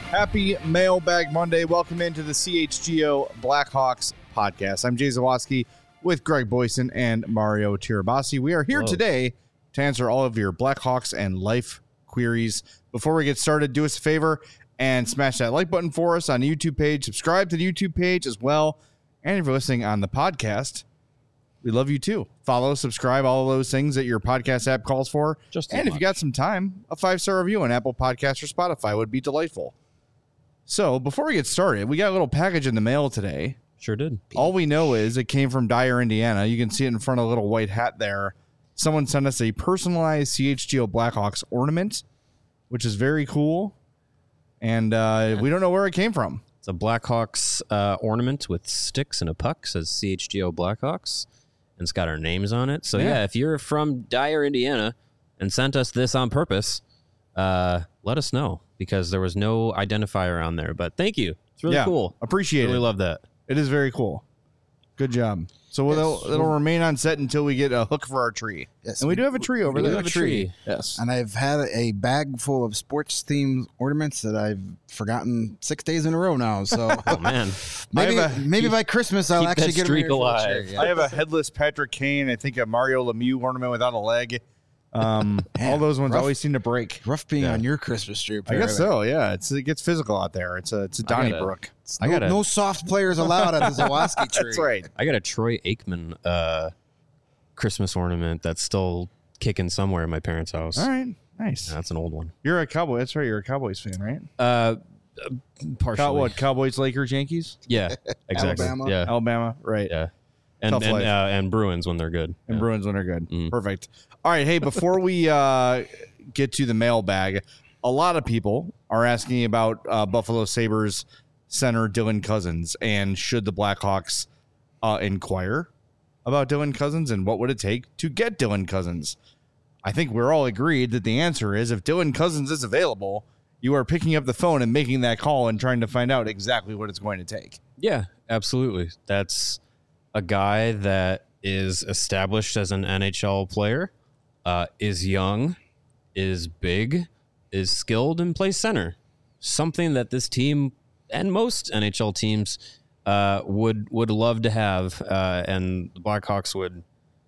Happy Mailbag Monday. Welcome into the CHGO Blackhawks podcast. I'm Jay Zawaski with Greg Boyson and Mario Tirabassi. We are here today to answer all of your Blackhawks and life queries. Before we get started, do us a favor and smash that like button for us on the YouTube page. Subscribe to the YouTube page as well. And if you're listening on the podcast, we love you too. Follow, subscribe, all of those things that your podcast app calls for. And if you got some time, a 5-star review on Apple Podcasts or Spotify would be delightful. So before we get started, we got a little package in the mail today. Sure did. All we know is it came from Dyer, Indiana. You can see it in front of a little white hat there. Someone sent us a personalized CHGO Blackhawks ornament, which is very cool. And we don't know where it came from. It's a Blackhawks ornament with sticks and a puck. Says CHGO Blackhawks. And it's got our names on it. So yeah, if you're from Dyer, Indiana, and sent us this on purpose, let us know. Because there was no identifier on there. But thank you. It's really cool. Appreciate it. Really love that. It is very cool. Good job. So it'll remain on set until we get a hook for our tree. Yes, and we do have a tree over there. We have a tree. Yes. And I've had a bag full of sports-themed ornaments that I've forgotten 6 days in a row now. So Oh, man. maybe by Christmas I'll actually get streak a alive. I have a headless Patrick Kane. I think a Mario Lemieux ornament without a leg. All those ones always seem to break. Rough being on your Christmas tree. I guess so. Yeah, it gets physical out there. It's a Donnybrook. No soft players allowed at the Zawaski tree. That's right. I got a Troy Aikman Christmas ornament that's still kicking somewhere in my parents' house. All right, nice. Yeah, that's an old one. You're a Cowboy. That's right. You're a Cowboys fan, right? Partially. Cowboys, Lakers, Yankees? Yeah, exactly. Alabama? Yeah, Alabama, right? yeah. Tough life. And Bruins when they're good. And Yeah. Bruins when they're good. Perfect. All right. Hey, before we get to the mailbag, a lot of people are asking about Buffalo Sabres center Dylan Cousins and should the Blackhawks inquire about Dylan Cousins and what would it take to get Dylan Cousins? I think we're all agreed that the answer is if Dylan Cousins is available, you are picking up the phone and making that call and trying to find out exactly what it's going to take. Yeah, absolutely. That's a guy that is established as an NHL player, is young, is big, is skilled, and plays center. Something that this team and most NHL teams would love to have, and the Blackhawks would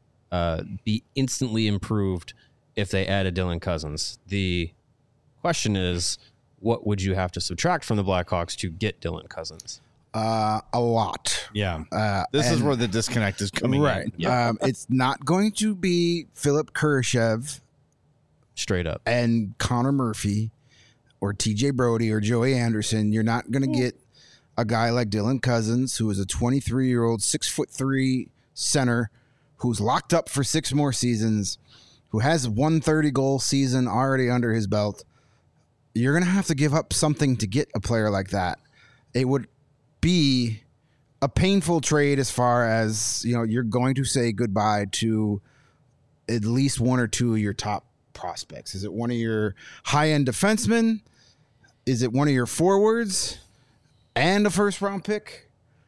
be instantly improved if they added Dylan Cousins. The question is, what would you have to subtract from the Blackhawks to get Dylan Cousins? A lot. Yeah. This is where the disconnect is coming in. Right. It's not going to be Philip Kurashev Straight up. and Connor Murphy or TJ Brody or Joey Anderson. You're not going to get a guy like Dylan Cousins, who is a 23-year-old, 6'3" center who's locked up for 6 more seasons, who has 130-goal season already under his belt. You're going to have to give up something to get a player like that. It would be a painful trade as far as, you're going to say goodbye to at least 1 or 2 of your top prospects. Is it one of your high-end defensemen? Is it one of your forwards and a first-round pick?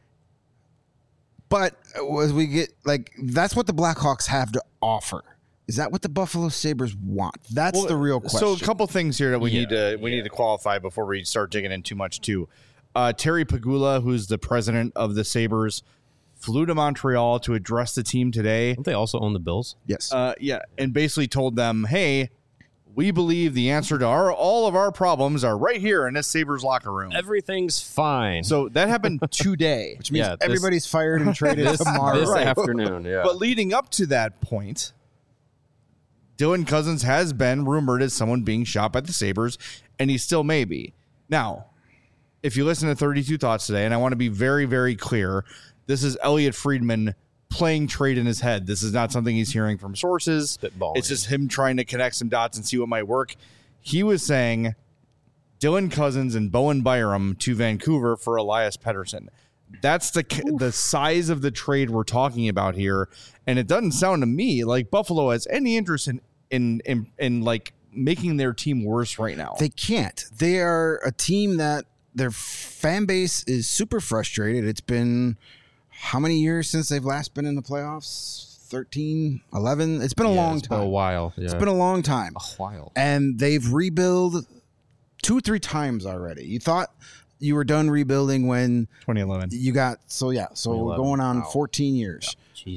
But as we get, that's what the Blackhawks have to offer. Is that what the Buffalo Sabres want? That's the real question. So a couple things here that we need to qualify before we start digging in too much too. Terry Pegula, who's the president of the Sabres, flew to Montreal to address the team today. Don't they also own the Bills? Yes. And basically told them, hey, we believe the answer to all of our problems are right here in this Sabres locker room. Everything's fine. So that happened today. Which means everybody's fired and traded tomorrow. This afternoon, yeah. But leading up to that point, Dylan Cousins has been rumored as someone being shot by the Sabres, and he still may be. Now, if you listen to 32 Thoughts today, and I want to be very, very clear, this is Elliot Friedman playing trade in his head. This is not something he's hearing from sources. Spitballing. It's just him trying to connect some dots and see what might work. He was saying Dylan Cousins and Bowen Byram to Vancouver for Elias Pettersson. That's the size of the trade we're talking about here, and it doesn't sound to me like Buffalo has any interest in like making their team worse right now. They can't. They are a team that their fan base is super frustrated. It's been how many years since they've last been in the playoffs? 13, 11? It's been a long time. It's been a while. Yeah. It's been a long time. A while. And they've rebuilt 2-3 times already. You thought you were done rebuilding when 2011. you got so we're 2011. going on Wow. 14 years. Jeez.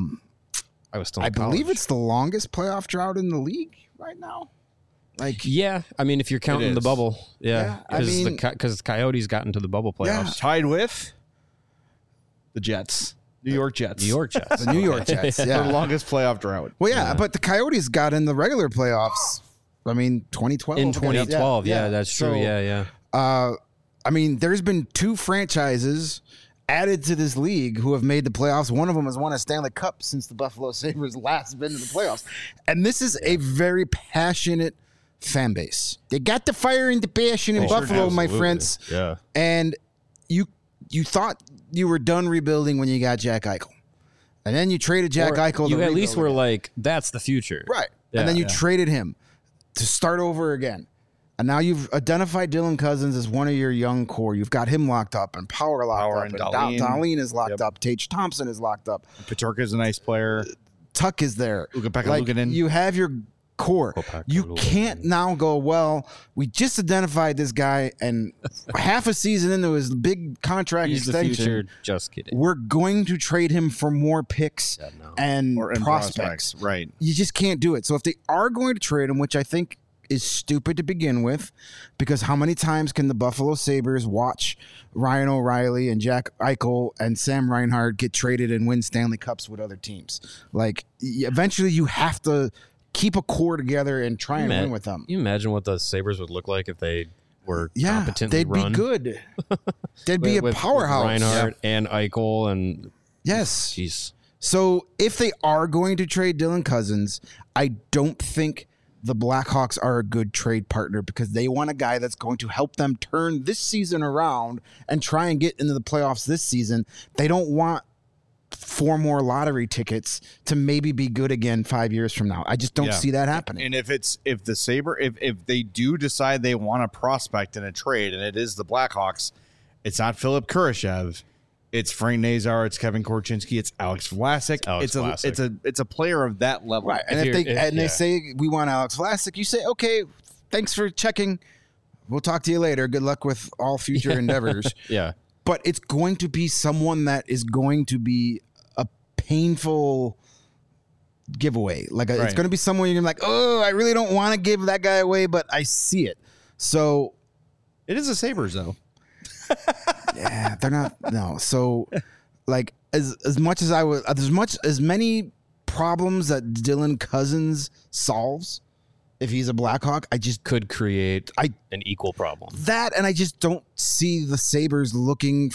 I was still in I believe college. it's the longest playoff drought in the league right now. Like Yeah, I mean, if you're counting the is. bubble, Yeah, I mean- because Coyotes got into the bubble playoffs. Tied with the Jets, New York Jets. New York Jets. the New York Jets. The Yeah. longest playoff drought. Well, yeah, but the Coyotes got in the regular playoffs. I mean, 2012. In 2012, yeah, that's true. So, Yeah. I mean, there's been 2 franchises added to this league who have made the playoffs. One of them has won a Stanley Cup since the Buffalo Sabres last been to the playoffs. And this is a very passionate fan base. They got the fire and the passion in Buffalo, my Absolutely. friends. Yeah. And you thought you were done rebuilding when you got Jack Eichel. And then you traded Jack Eichel. You to at least rebuild were again. like, that's the future. Right. Yeah, And then you yeah. traded him to start over again. And now you've identified Dylan Cousins as one of your young core. You've got him locked up, and Power locked Power up, and and Dahlin. Dahlin is locked Yep. up. Tage Thompson is locked up. Peterka's a nice player. Tuck is there. Ukko-Pekka Like, Luukkonen. you have your core. Ukko-Pekka You Luukkonen. can't now go, well, we just identified this guy, and half a season into his big contract He's the extension, future. Just kidding. we're going to trade him for more picks no. and Or in prospects. Right. You just can't do it. So if they are going to trade him, which I think is stupid to begin with, because how many times can the Buffalo Sabres watch Ryan O'Reilly and Jack Eichel and Sam Reinhart get traded and win Stanley Cups with other teams? Like, eventually you have to keep a core together and try and win with them. You imagine what the Sabres would look like if they were Yeah, competently they'd run. be good. They'd be a with powerhouse. Reinhardt and Eichel and Yes. jeez. So if they are going to trade Dylan Cousins, I don't think the Blackhawks are a good trade partner because they want a guy that's going to help them turn this season around and try and get into the playoffs this season. They don't want 4 more lottery tickets to maybe be good again 5 years from now. I just don't Yeah. see that happening. And if they do decide they want a prospect in a trade, and it is the Blackhawks, it's not Philip Kurashev, it's Frank Nazar, it's Kevin Korchinski, it's Alex Vlasic. Alex Vlasic. It's a player of that level. Right. And If if they you're- if- they yeah. say we want Alex Vlasic, you say, okay, thanks for checking. We'll talk to you later. Good luck with all future endeavors. Yeah. But it's going to be someone that is going to be a painful giveaway. Like it's Right. going to be someone you're gonna be like, oh, I really don't want to give that guy away, but I see it. So It is a Sabres though. yeah, they're not no. So like as much as I would, as many problems that Dylan Cousins solves, if he's a Blackhawk, I just Could create I- an equal problem. that, and I just don't see the Sabres looking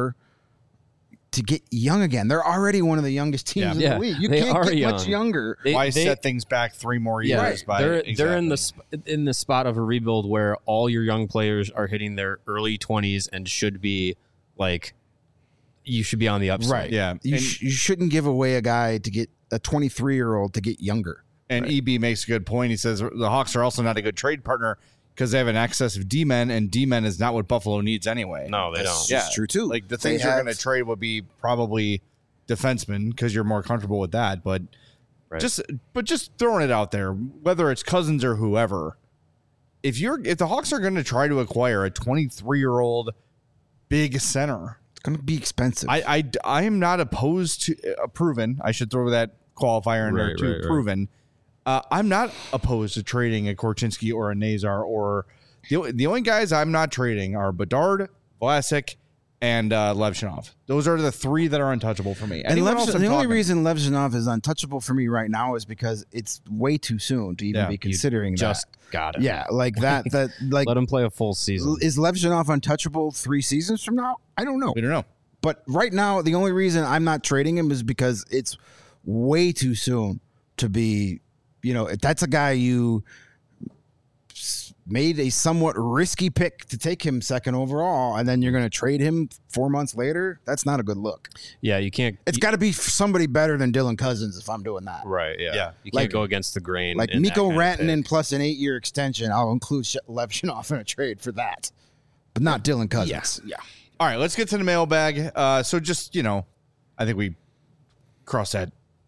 to get young again. They're already one of the youngest teams in Yeah, the league. You they can't are get much young. younger. Why set things back 3 more years? By they're in the spot of a rebuild where all your young players are hitting their early 20s and should be like you should be on the upside. Right. Yeah. You, And- you shouldn't give away a guy to get a 23-year-old to get younger. And EB makes a good point. He says the Hawks are also not a good trade partner because they have an excess of D-men, and D-men is not what Buffalo needs anyway. No, they That's don't. Yeah. true too. Like the They things you're have- going to trade would be probably defensemen because you're more comfortable with that. But Right. just throwing it out there, whether it's Cousins or whoever, if the Hawks are going to try to acquire a 23-year-old big center, It's going to be expensive. I am not opposed to proven. I should throw that qualifier in there Right, too. right. Proven. I'm not opposed to trading a Korchinski or a Nazar or the only guys I'm not trading are Bedard, Vlasic, and Levshinov. Those are the 3 that are untouchable for me. and Anyone else the I'm only talking- reason Levshinov is untouchable for me right now is because it's way too soon to even Yeah, be you considering Just that. got it. Yeah, like that like Let him play a full season. is Levshinov untouchable 3 seasons from now? I don't know. we don't know. But right now, the only reason I'm not trading him is because it's way too soon to be, if that's a guy you made a somewhat risky pick to take him second overall, and then you're going to trade him 4 months later, that's not a good look. Yeah, you can't. It's got to be somebody better than Dylan Cousins if I'm doing that. right. Yeah. Yeah. You can't Like- go against the grain. Like in that Mikko kind of Rantanen pick. plus an 8-year extension, I'll include Levshinov in a trade for that, but not Dylan Cousins. Yeah. All right, let's get to the mailbag. So just, I think we crossed that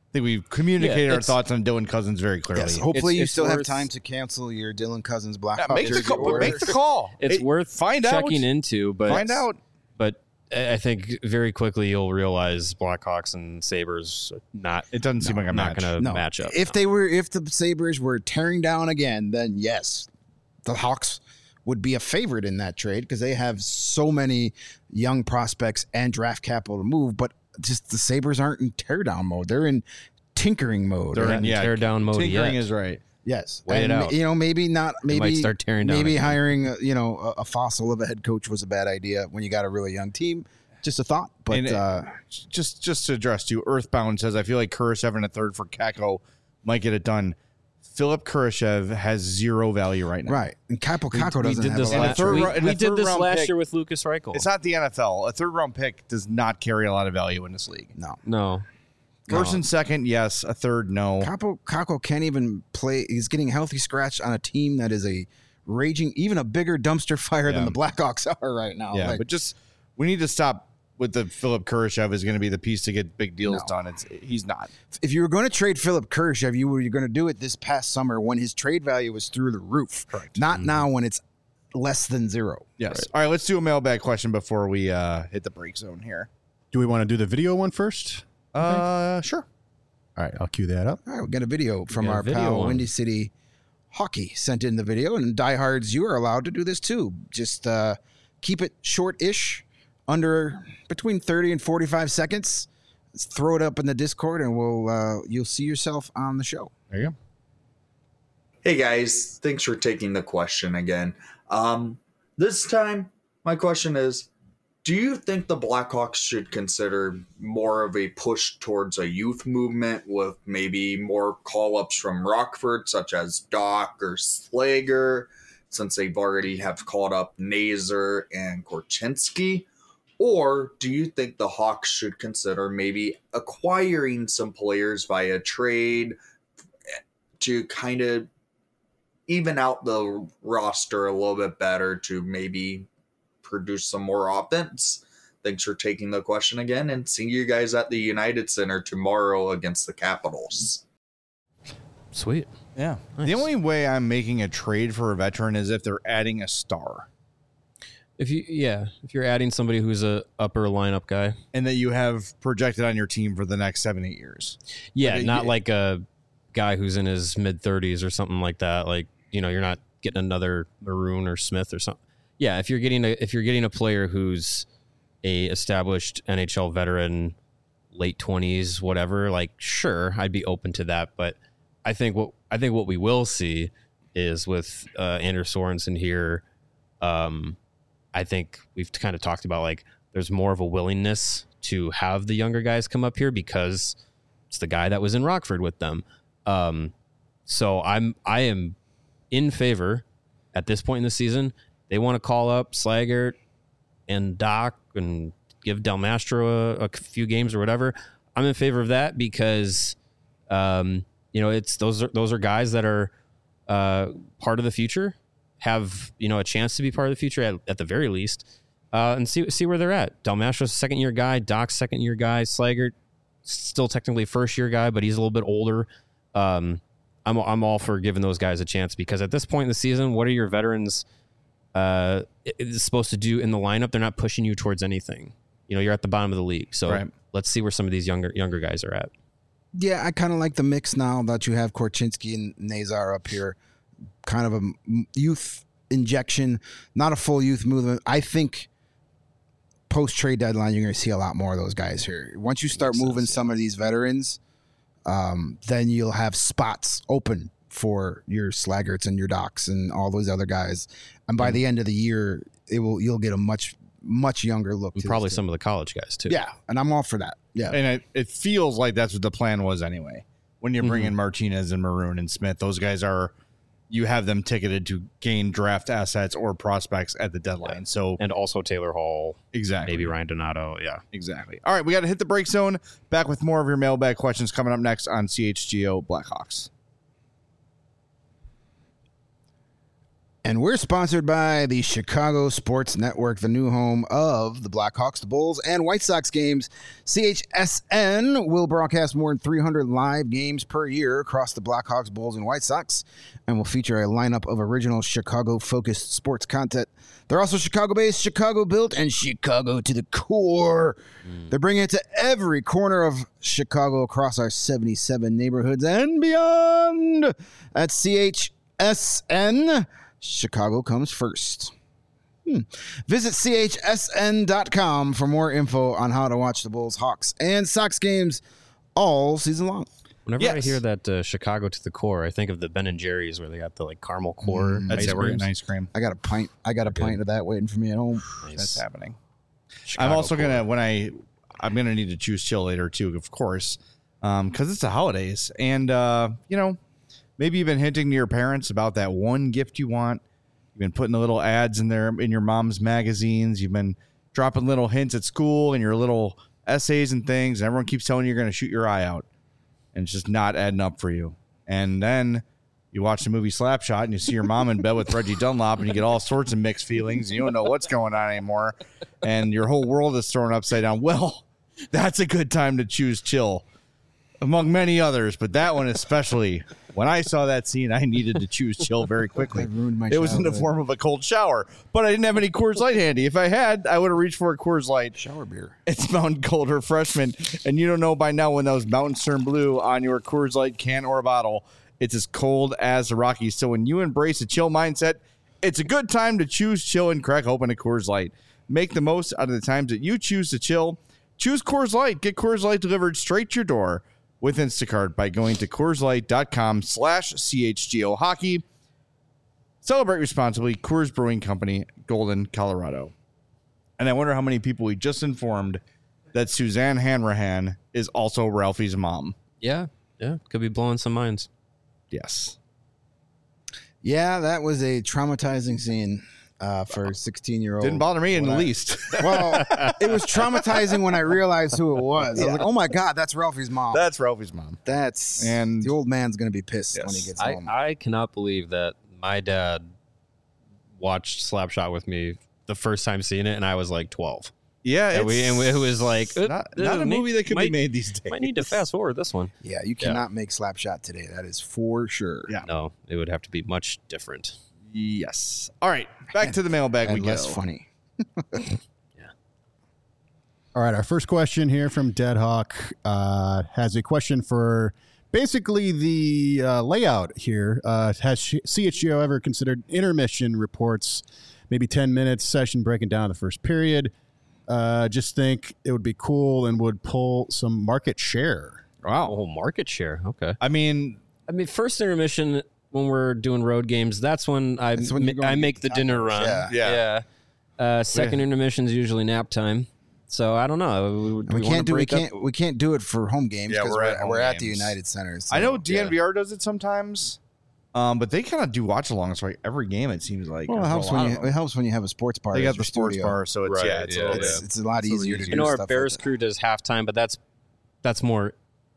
think we've communicated Yeah, our thoughts on Dylan Cousins very clearly. Yes, hopefully you It's still have worth- time to cancel your Dylan Cousins Blackhawks Yeah, make the jersey call. order. Make the call. It's Hey, worth find out. checking into, but Find out. But I think very quickly you'll realize Blackhawks and Sabres not. It doesn't seem like a not match. going to No, match up. if the Sabres were tearing down again, then yes, the Hawks would be a favorite in that trade because they have so many young prospects and draft capital to move. But just the Sabres aren't in teardown mode; they're in tinkering mode. They're in tear down mode Tinkering yet. is right. Yes, Wait it and out. you know, maybe not. Maybe might start tearing down Maybe again. hiring a fossil of a head coach was a bad idea when you got a really young team. Just a thought, but And just to address you, Earthbound says I feel like Kurashev in a third for Kako might get it done. Philip Kurashev has zero value right now. right. And Kako we doesn't did have this a lot last- of third we, round- in we a did third this round last pick. year with Lucas Reichel. It's not the NFL. A third round pick does not carry a lot of value in this league. No. First and second, yes. A third, no. Kako can't even play. He's getting healthy scratch on a team that is a raging, even a bigger dumpster fire than Yeah. the Blackhawks are right now. Yeah, Like, but just we need to stop with the Philip Kurashev is going to be the piece to get big deals done. He's not. if you were going to trade Philip Kurashev, you were going to do it this past summer when his trade value was through the roof. Correct. Not now when it's less than zero. Yes. All right, let's do a mailbag question before we hit the break zone here. Do we want to do the video one first? Sure. All right, I'll cue that up. All right, we got a video from got a our video pal one. Windy City Hockey sent in the video, and diehards, you are allowed to do this too. Just keep it short-ish, under between 30 and 45 seconds. Let's throw it up in the Discord, and you'll see yourself on the show. There you go. Hey guys, thanks for taking the question again. This time, my question is, do you think the Blackhawks should consider more of a push towards a youth movement with maybe more call-ups from Rockford, such as Doc or Slager, since they've already have called up Nazer and Korchinski? Or do you think the Hawks should consider maybe acquiring some players via trade to kind of even out the roster a little bit better to maybe produce some more offense? Thanks for taking the question again, and see you guys at the United Center tomorrow against the Capitals. Sweet. Yeah. Nice. The only way I'm making a trade for a veteran is if they're adding a star If you're adding somebody who's a upper lineup guy. and that you have projected on your team for the next 7-8 years. Yeah, Like, not like a guy who's in his mid 30s or something like that. Like, you're not getting another Maroon or Smith or something. Yeah, if you're getting a player who's a established NHL veteran, late 20s, whatever, like sure, I'd be open to that, but I think what we will see is with Andrew Sorensen here, I think we've kind of talked about like there's more of a willingness to have the younger guys come up here because it's the guy that was in Rockford with them. So I am in favor at this point in the season. They want to call up Slaggert and Doc and give Del Mastro a few games or whatever. I'm in favor of that because, it's those are guys that are part of the future, have a chance to be part of the future at the very least, and see where they're at. Del Mastro's a second-year guy, Doc's second-year guy, Slaggert still technically first-year guy, but he's a little bit older. I'm all for giving those guys a chance because at this point in the season, what are your veterans supposed to do in the lineup? They're not pushing you towards anything. You're at the bottom of the league, so Right. let's see where some of these younger guys are at. Yeah, I kind of like the mix now that you have Korchinski and Nazar up here. Kind of a youth injection, not a full youth movement. I think post-trade deadline, you're going to see a lot more of those guys here. Once you start moving some of these veterans, then you'll have spots open for your Slaggerts and your Docs and all those other guys. And by the end of the year, you'll get a much younger look. And to probably this some of the college guys too. team. Yeah, and I'm all for that. Yeah. And it feels like that's what the plan was anyway. When you bring in Martinez and Maroon and Smith, those guys you have them ticketed to gain draft assets or prospects at the deadline. So And also Taylor Hall, exactly. maybe Ryan Donato. Yeah. Exactly. All right, we got to hit the break zone. Back with more of your mailbag questions coming up next on CHGO Blackhawks. And we're sponsored by the Chicago Sports Network, the new home of the Blackhawks, the Bulls, and White Sox games. CHSN will broadcast more than 300 live games per year across the Blackhawks, Bulls, and White Sox, and will feature a lineup of original Chicago-focused sports content. They're also Chicago-based, Chicago-built, and Chicago to the core. They're bringing it to every corner of Chicago across our 77 neighborhoods and beyond. At CHSN, Chicago comes first. Visit chsn.com for more info on how to watch the Bulls, Hawks, and Sox games all season long. Whenever I hear that Chicago to the core, I think of the Ben & Jerry's where they got the like caramel core. That's it. We're getting ice cream. I got a pint of that waiting for me at home. Nice. That's happening. Chicago I'm also core. gonna I'm gonna need to choose chill later too, of course, because it's the holidays, and maybe you've been hinting to your parents about that one gift you want. You've been putting the little ads in there in your mom's magazines. You've been dropping little hints at school and your little essays and things, and everyone keeps telling you you're gonna shoot your eye out, and it's just not adding up for you. And then you watch the movie Slapshot and you see your mom in bed with Reggie Dunlop and you get all sorts of mixed feelings and you don't know what's going on anymore. And your whole world is thrown upside down. Well, that's a good time to choose chill among many others. But that one especially, when I saw that scene, I needed to choose chill very quickly. ruined my It was in the childhood. form of a cold shower, but I didn't have any Coors Light handy. If I had, I would have reached for a Coors Light. Shower beer. It's Mountain Cold Refreshment, and you don't know by now when those Mountains turn blue on your Coors Light can or bottle, it's as cold as the Rockies. So when you embrace a chill mindset, it's a good time to choose chill and crack open a Coors Light. Make the most out of the times that you choose to chill. Choose Coors Light. Get Coors Light delivered straight to your door with Instacart by going to CoorsLight.com/CHGO Hockey. Celebrate responsibly. Coors Brewing Company, Golden, Colorado. And I wonder how many people we just informed that Suzanne Hanrahan is also Ralphie's mom. Yeah, could be blowing some minds. Yes. Yeah, that was a traumatizing scene for a 16-year-old. Didn't bother me in the least. Well, it was traumatizing when I realized who it was. I was like, oh my God, that's Ralphie's mom. That's Ralphie's mom. And the old man's going to be pissed when he gets home. I cannot believe that my dad watched Slapshot with me the first time seeing it, and I was like 12. Yeah, And it was like not a movie that could be made these days. Might need to fast forward this one. Yeah, you cannot make Slapshot today. That is for sure. Yeah. No, it would have to be much different. Yes. All right, back to the mailbag we And go. less funny. All right, our first question here from Deadhawk has a question for basically the layout here. Has CHGO ever considered intermission reports, maybe 10 minutes session breaking down the first period? Just think it would be cool and would pull some market share. Wow. Oh, market share. Okay. I mean, First intermission when we're doing road games, that's when I That's when you're going I to make get the the dinner tacos. run. Yeah. Second intermission is usually nap time. So I don't know. We can't do it for home games Yeah, because we're we're, at home at the games. United Center. So, I know DNVR does it sometimes, but they kind of do watch-alongs for every game, it seems like. Well, Or it helps for a lot when of it them. helps when you have a sports bar. They as got your the sports studio. bar, so it's, Right, it's a yeah, little It's a lot easier to do. I know our stuff Bears like that. crew does halftime, but that's more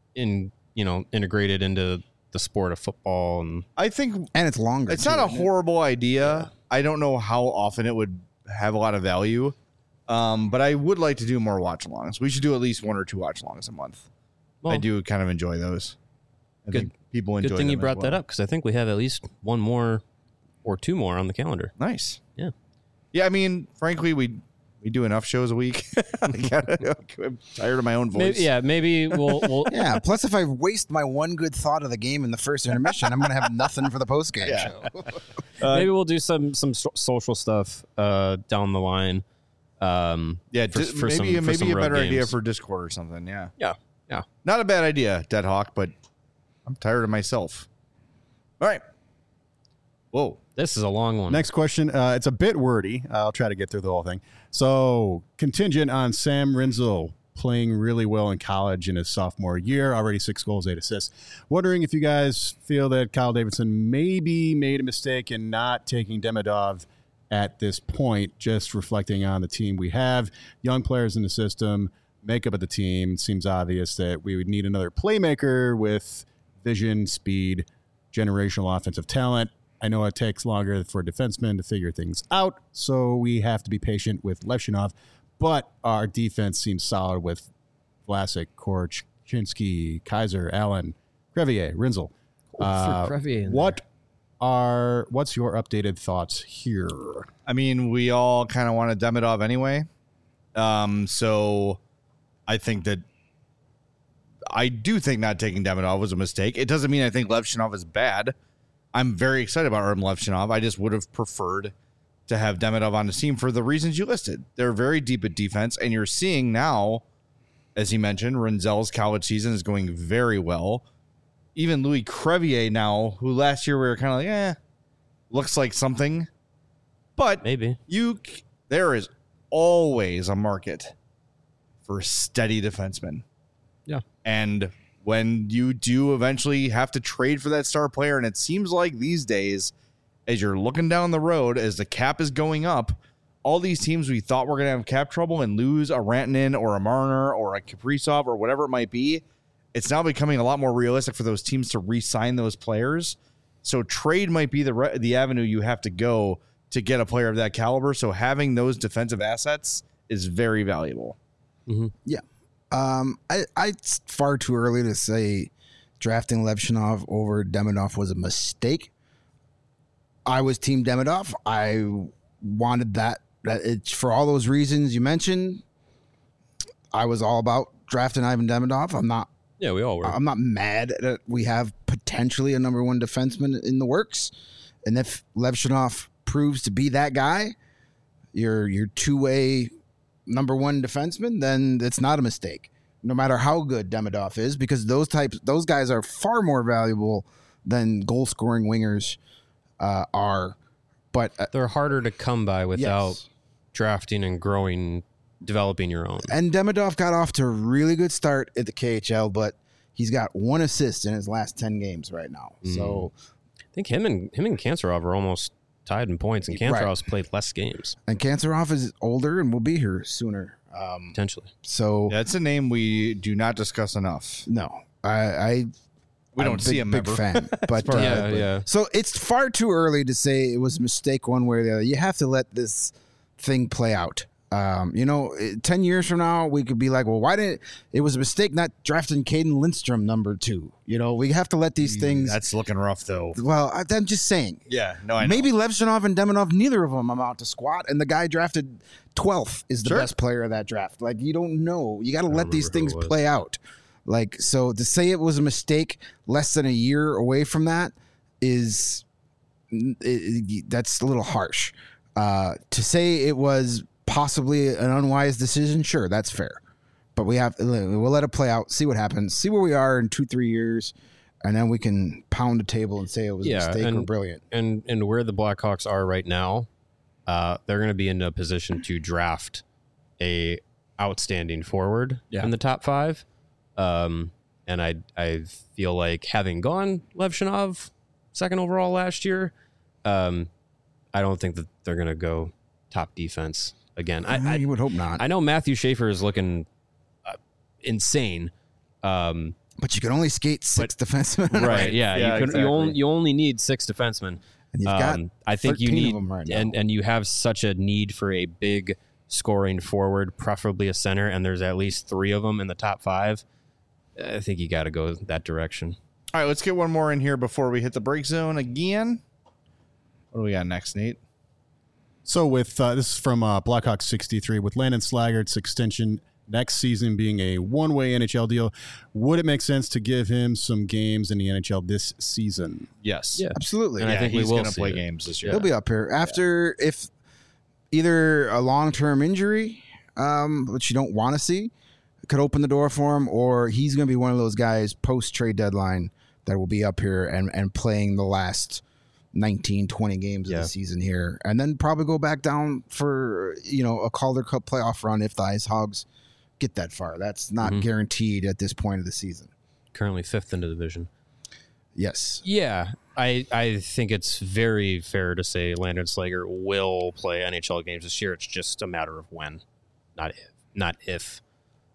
integrated into the sport of football. And I think and it's longer. it's too, not a isn't it? horrible idea. I don't know how often it would have a lot of value, but I would like to do more watch-alongs. We should do at least 1 or 2 watch-alongs a month. well, I do kind of enjoy those. I Good- think people enjoy good thing you them as brought that well. up because I think we have at least one more or 2 more on the calendar. Nice. Yeah. Yeah, I mean, frankly, we do enough shows a week. I'm tired of my own voice. Maybe we'll Yeah. Plus, if I waste my one good thought of the game in the first intermission, I'm going to have nothing for the post game show. maybe we'll do some social stuff down the line. Yeah, for maybe some a road better idea games. for Discord or something. Yeah. Yeah. Not a bad idea, Deadhawk, but I'm tired of myself. All right. Whoa. This is a long one. Next question. It's a bit wordy. I'll try to get through the whole thing. So, contingent on Sam Rinzel playing really well in college in his sophomore year, already 6 goals, 8 assists. Wondering if you guys feel that Kyle Davidson maybe made a mistake in not taking Demidov at this point, just reflecting on the team we have, young players in the system, makeup of the team. It seems obvious that we would need another playmaker with vision, speed, generational offensive talent. I know it takes longer for defensemen to figure things out, so we have to be patient with Levshunov. But our defense seems solid with Vlasic, Korch, Chinsky, Kaiser, Allen, Crevier, Rinzel. Crevier in What's your updated thoughts here? I mean, we all kind of wanted Demidov anyway. So I do think not taking Demidov was a mistake. It doesn't mean I think Levshunov is bad. I'm very excited about Artem Levshunov. I just would have preferred to have Demidov on the team for the reasons you listed. They're very deep at defense, and you're seeing now, as he mentioned, Rinzel's college season is going very well. Even Louis Crevier now, who last year we were kind of like, looks like something. But Maybe. there is always a market for steady defensemen. Yeah. And when you do eventually have to trade for that star player, and it seems like these days, as you're looking down the road, as the cap is going up, all these teams we thought were going to have cap trouble and lose a Rantanen or a Marner or a Kaprizov or whatever it might be, it's now becoming a lot more realistic for those teams to re-sign those players. So trade might be the avenue you have to go to get a player of that caliber. So having those defensive assets is very valuable. Mm-hmm. Yeah. It's far too early to say drafting Levshunov over Demidov was a mistake. I was Team Demidov. I wanted that. It's for all those reasons you mentioned. I was all about drafting Ivan Demidov. Yeah, we all were. I'm not mad that we have potentially a number one defenseman in the works, and if Levshunov proves to be that guy, your two-way number one defenseman, then it's not a mistake, no matter how good Demidov is, because those guys are far more valuable than goal-scoring wingers are. But they're harder to come by without drafting and developing your own. And Demidov got off to a really good start at the KHL, but he's got 1 assist in his last 10 games right now. So I think him and Kanserov are almost tied in points, and Kanserov's played less games. And Kanserov is older and will be here sooner. Potentially. So That's a name we do not discuss enough. no, We I'm don't see him big ever. fan, but Yeah. So it's far too early to say it was a mistake one way or the other. You have to let this thing play out. 10 years from now, we could be like, well, why didn't it was a mistake not drafting Caden Lindstrom number 2? We have to let these things. That's looking rough, though. Well, I'm just saying. Yeah, no, I know. Maybe Levshunov and Demidov, neither of them amount to squat, and the guy drafted 12th is the Sure. best player of that draft. Like, you don't know. You got to let these remember who things it was. play out. Like, so to say it was a mistake less than a year away from that that's a little harsh. To say it was possibly an unwise decision, sure, that's fair. But we'll let it play out, see what happens, see where we are in 2-3 years, and then we can pound the table and say it was a mistake or brilliant. And where the Blackhawks are right now, they're going to be in a position to draft a outstanding forward in the top 5. And I feel like having gone Levshunov 2nd overall last year, I don't think that they're going to go top defense again. You would hope not. I know Matthew Schaefer is looking insane. But you can only skate 6 defensemen. Right. Yeah. Yeah, you only need 6 defensemen. And you've got I think you 13 need, of them right now. and you have such a need for a big scoring forward, preferably a center, and there's at least 3 of them in the top 5. I think you got to go that direction. All right, let's get one more in here before we hit the break zone again. What do we got next, Nate? So with this is from Blackhawks 63, with Landon Slaggert's extension next season being a one-way NHL deal, would it make sense to give him some games in the NHL this season? Yes. Yeah. Absolutely. And I think we he's will going to see play it. games this year. He'll be up here after if either a long-term injury, which you don't want to see, could open the door for him, or he's going to be one of those guys post-trade deadline that will be up here and playing the last 19, 20 games of the season here, and then probably go back down for a Calder Cup playoff run if the Ice Hogs get that far. That's not guaranteed at this point of the season. Currently 5th in the division. Yes. Yeah, I think it's very fair to say Landon Slager will play NHL games this year. It's just a matter of when, not if.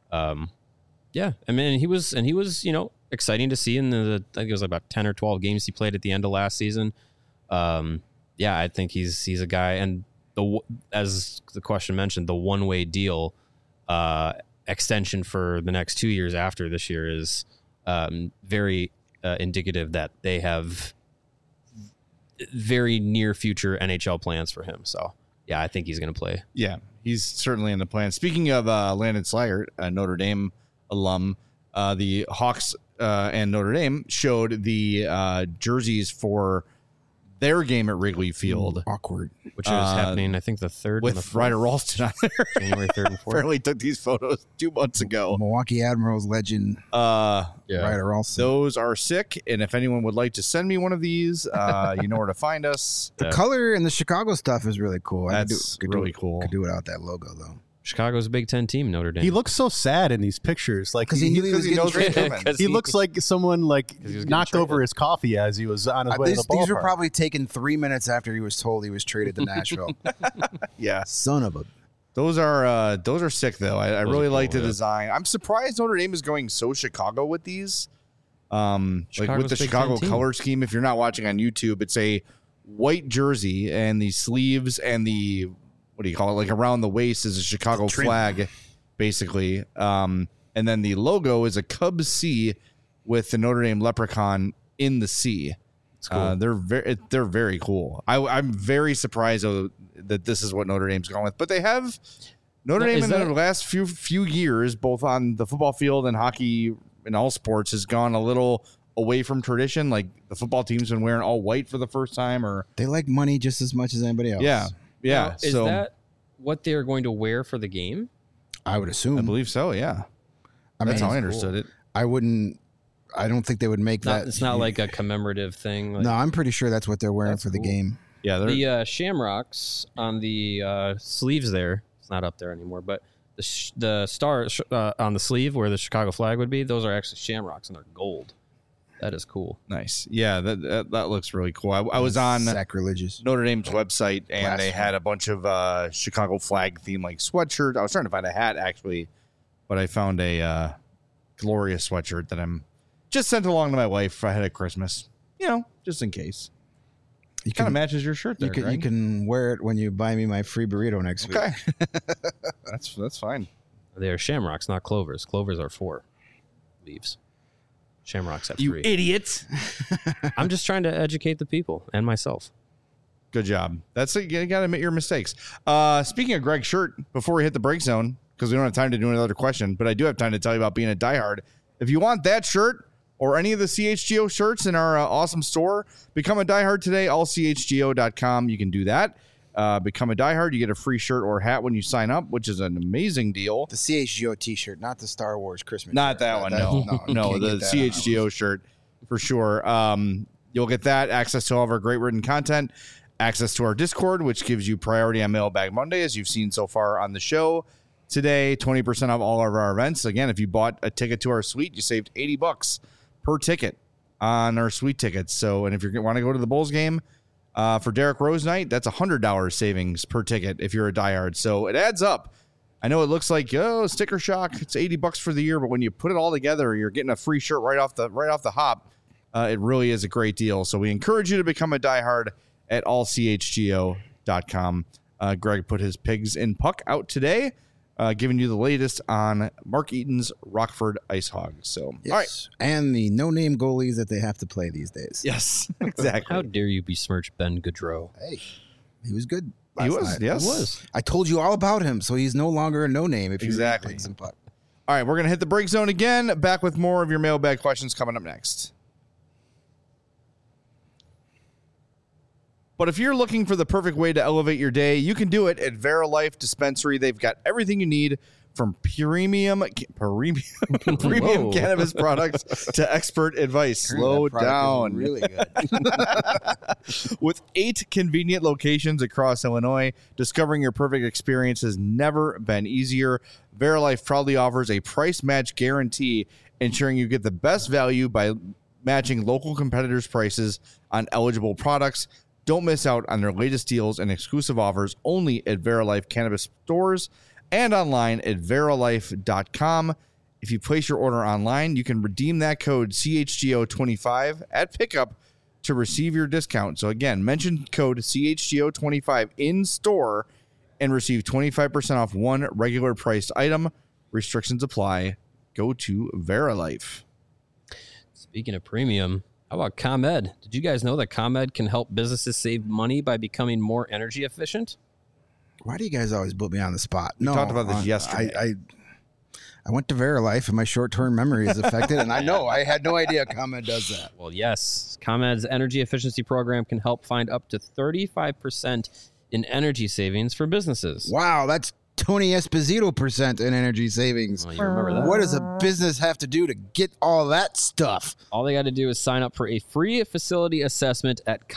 Yeah, I mean, he was exciting to see in the I think it was about 10 or 12 games he played at the end of last season. Yeah, I think he's a guy, and as the question mentioned, the one-way deal extension for the next 2 years after this year is very indicative that they have very near future NHL plans for him. So yeah, I think he's going to play. Yeah, he's certainly in the plan. Speaking of Landon Slaggert, a Notre Dame alum, the Hawks and Notre Dame showed the jerseys for their game at Wrigley Field. Awkward. Which is happening, I think, the 3rd with and the 4th. Ryder Ralston on there. January 3rd and 4th. Apparently took these photos 2 months ago. Milwaukee Admirals legend Ryder Ralston. Those are sick, and if anyone would like to send me one of these, you know where to find us. The color and the Chicago stuff is really cool. That's really cool. Could do without that logo, though. Chicago's a Big Ten team, Notre Dame. He looks so sad in these pictures. Like Because he knew he was getting knows what's traded. coming. he looks like someone like he was getting knocked traded. over his coffee as he was on his way to the ballpark. These were probably taken 3 minutes after he was told he was traded to Nashville. Yeah, Son of a... those are sick though. I Those really are like cool, the yeah. design. I'm surprised Notre Dame is going so Chicago with these. Like with Chicago's the Big Chicago Ten team. color scheme. If you're not watching on YouTube, it's a white jersey and the sleeves and the, what do you call it? Like around the waist is a Chicago flag, basically. And then the logo is a Cubs C with the Notre Dame leprechaun in the C. cool. They're very cool. I'm very surprised though, that this is what Notre Dame's going with, but they have Notre Now, Dame is in that- the last few years, both on the football field and hockey and all sports, has gone a little away from tradition. Like the football team's been wearing all white for the first time, or They like money just as much as anybody else. yeah. Now, is so that what they're going to wear for the game? I would assume. I believe so. Yeah, I mean, that's how I cool. understood it. I don't think they would make that. It's not like a commemorative thing. Like, No, I'm pretty sure that's what they're wearing That's for the cool. game. Yeah, they're the shamrocks on the sleeves there, it's not up there anymore, but the star on the sleeve where the Chicago flag would be, those are actually shamrocks and they're gold. That is cool. nice. Yeah, that looks really cool. I was on Sacrilegious. Notre Dame's website, and they Blasphemy. had a bunch of Chicago flag theme like sweatshirts. I was trying to find a hat actually, but I found a glorious sweatshirt that I'm just sent along to my wife ahead of Christmas. You know, just in case. You Kind of can, matches your shirt there. you Greg. can wear it when you buy me my free burrito next week. Okay, that's fine. They are shamrocks, not clovers. Clovers are 4 leaves. Shamrocks have 3. You idiot! I'm just trying to educate the people and myself. Good job. That's it. You got to admit your mistakes. Speaking of Greg's shirt, before we hit the break zone, because we don't have time to do another question, but I do have time to tell you about being a diehard. If you want that shirt or any of the CHGO shirts in our awesome store, become a diehard today. Allchgo.com. You can do that. Become a diehard. You get a free shirt or hat when you sign up, which is an amazing deal. The CHGO T-shirt, not the Star Wars Christmas. Not shirt. that one. No, you no, can't the get that on CHGO shirt for sure. You'll get that, access to all of our great written content, access to our Discord, which gives you priority on Mailbag Monday, as you've seen so far on the show today. 20% off all of our events. Again, if you bought a ticket to our suite, you saved $80 per ticket on our suite tickets. So, and if you want to go to the Bulls game for Derrick Rose night, that's $100 savings per ticket if you're a diehard. So it adds up. I know it looks like sticker shock. It's $80 for the year, but when you put it all together, you're getting a free shirt right off the hop. It really is a great deal. So we encourage you to become a diehard at allchgo.com. Greg put his Pigs in Puck out today, giving you the latest on Mark Eaton's Rockford Ice Hogs. So, Yes. all right. And the no-name goalies that they have to play these days. Yes, exactly. How dare you besmirch Ben Gaudreau? Hey, he was good. He last was, night. yes. He was. I told you all about him, so he's no longer a no-name. If Exactly. you some puck. All right, we're going to hit the break zone again. Back with more of your mailbag questions coming up next. But if you're looking for the perfect way to elevate your day, you can do it at Verilife Dispensary. They've got everything you need, from premium Whoa. cannabis products to expert advice. Slow That product is down. Really good. With 8 convenient locations across Illinois, discovering your perfect experience has never been easier. Verilife proudly offers a price match guarantee, ensuring you get the best value by matching local competitors' prices on eligible products. Don't miss out on their latest deals and exclusive offers only at Verilife Cannabis stores and online at verilife.com. If you place your order online, you can redeem that code CHGO25 at pickup to receive your discount. So again, mention code CHGO25 in store and receive 25% off one regular priced item. Restrictions apply. Go to Verilife. Speaking of premium, how about ComEd? Did you guys know that ComEd can help businesses save money by becoming more energy efficient? Why do you guys always put me on the spot? We talked about this yesterday. I went to Verilife and my short-term memory is affected, and I had no idea ComEd does that. Well, yes. ComEd's energy efficiency program can help find up to 35% in energy savings for businesses. Wow, that's Tony Esposito % in energy savings. Well, you remember that? What does a business have to do to get all that stuff? All they got to do is sign up for a free facility assessment at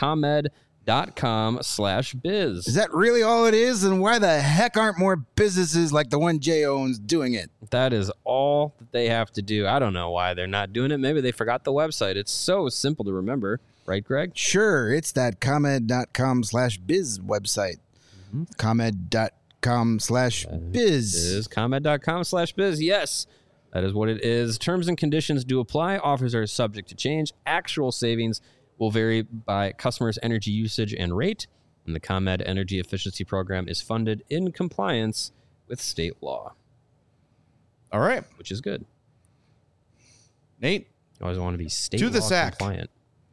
ComEd.com/biz. Is that really all it is? And why the heck aren't more businesses like the one Jay owns doing it? That is all that they have to do. I don't know why they're not doing it. Maybe they forgot the website. It's so simple to remember. Right, Greg? Sure, it's that ComEd.com/biz website. Mm-hmm. ComEd.com/biz. Is ComEd.com/biz. Yes, that is what it is. Terms and conditions do apply. Offers are subject to change. Actual savings will vary by customers' energy usage and rate. And the ComEd Energy Efficiency Program is funded in compliance with state law. All right. Which is good. Nate. You always want to be state to law the sack. compliant.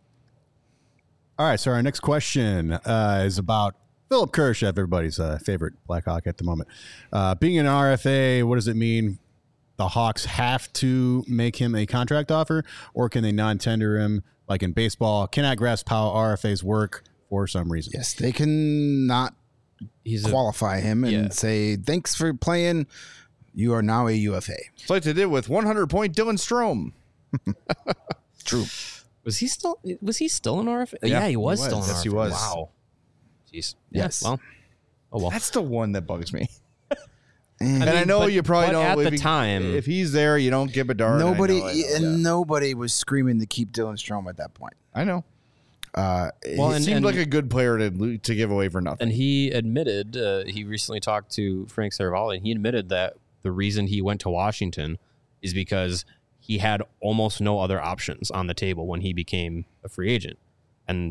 All right, so our next question is about Philip Kurashev, everybody's favorite Blackhawk at the moment. Being an RFA, what does it mean? The Hawks have to make him a contract offer, or can they non-tender him like in baseball? Cannot grasp how RFAs work for some reason. Yes, they can not qualify him and say, thanks for playing. You are now a UFA. It's like they did with 100-point Dylan Strome. True. Was he still an RFA? Yeah, he was still an RFA. Yes, he was. Wow. Jeez. Yes. Yeah, well. That's the one that bugs me. And I know you probably don't. At the time, if he's there, you don't give a darn. Nobody was screaming to keep Dylan Strome at that point. I know. He seemed like a good player to give away for nothing. And he admitted, he recently talked to Frank Saravalli, and he admitted that the reason he went to Washington is because he had almost no other options on the table when he became a free agent. And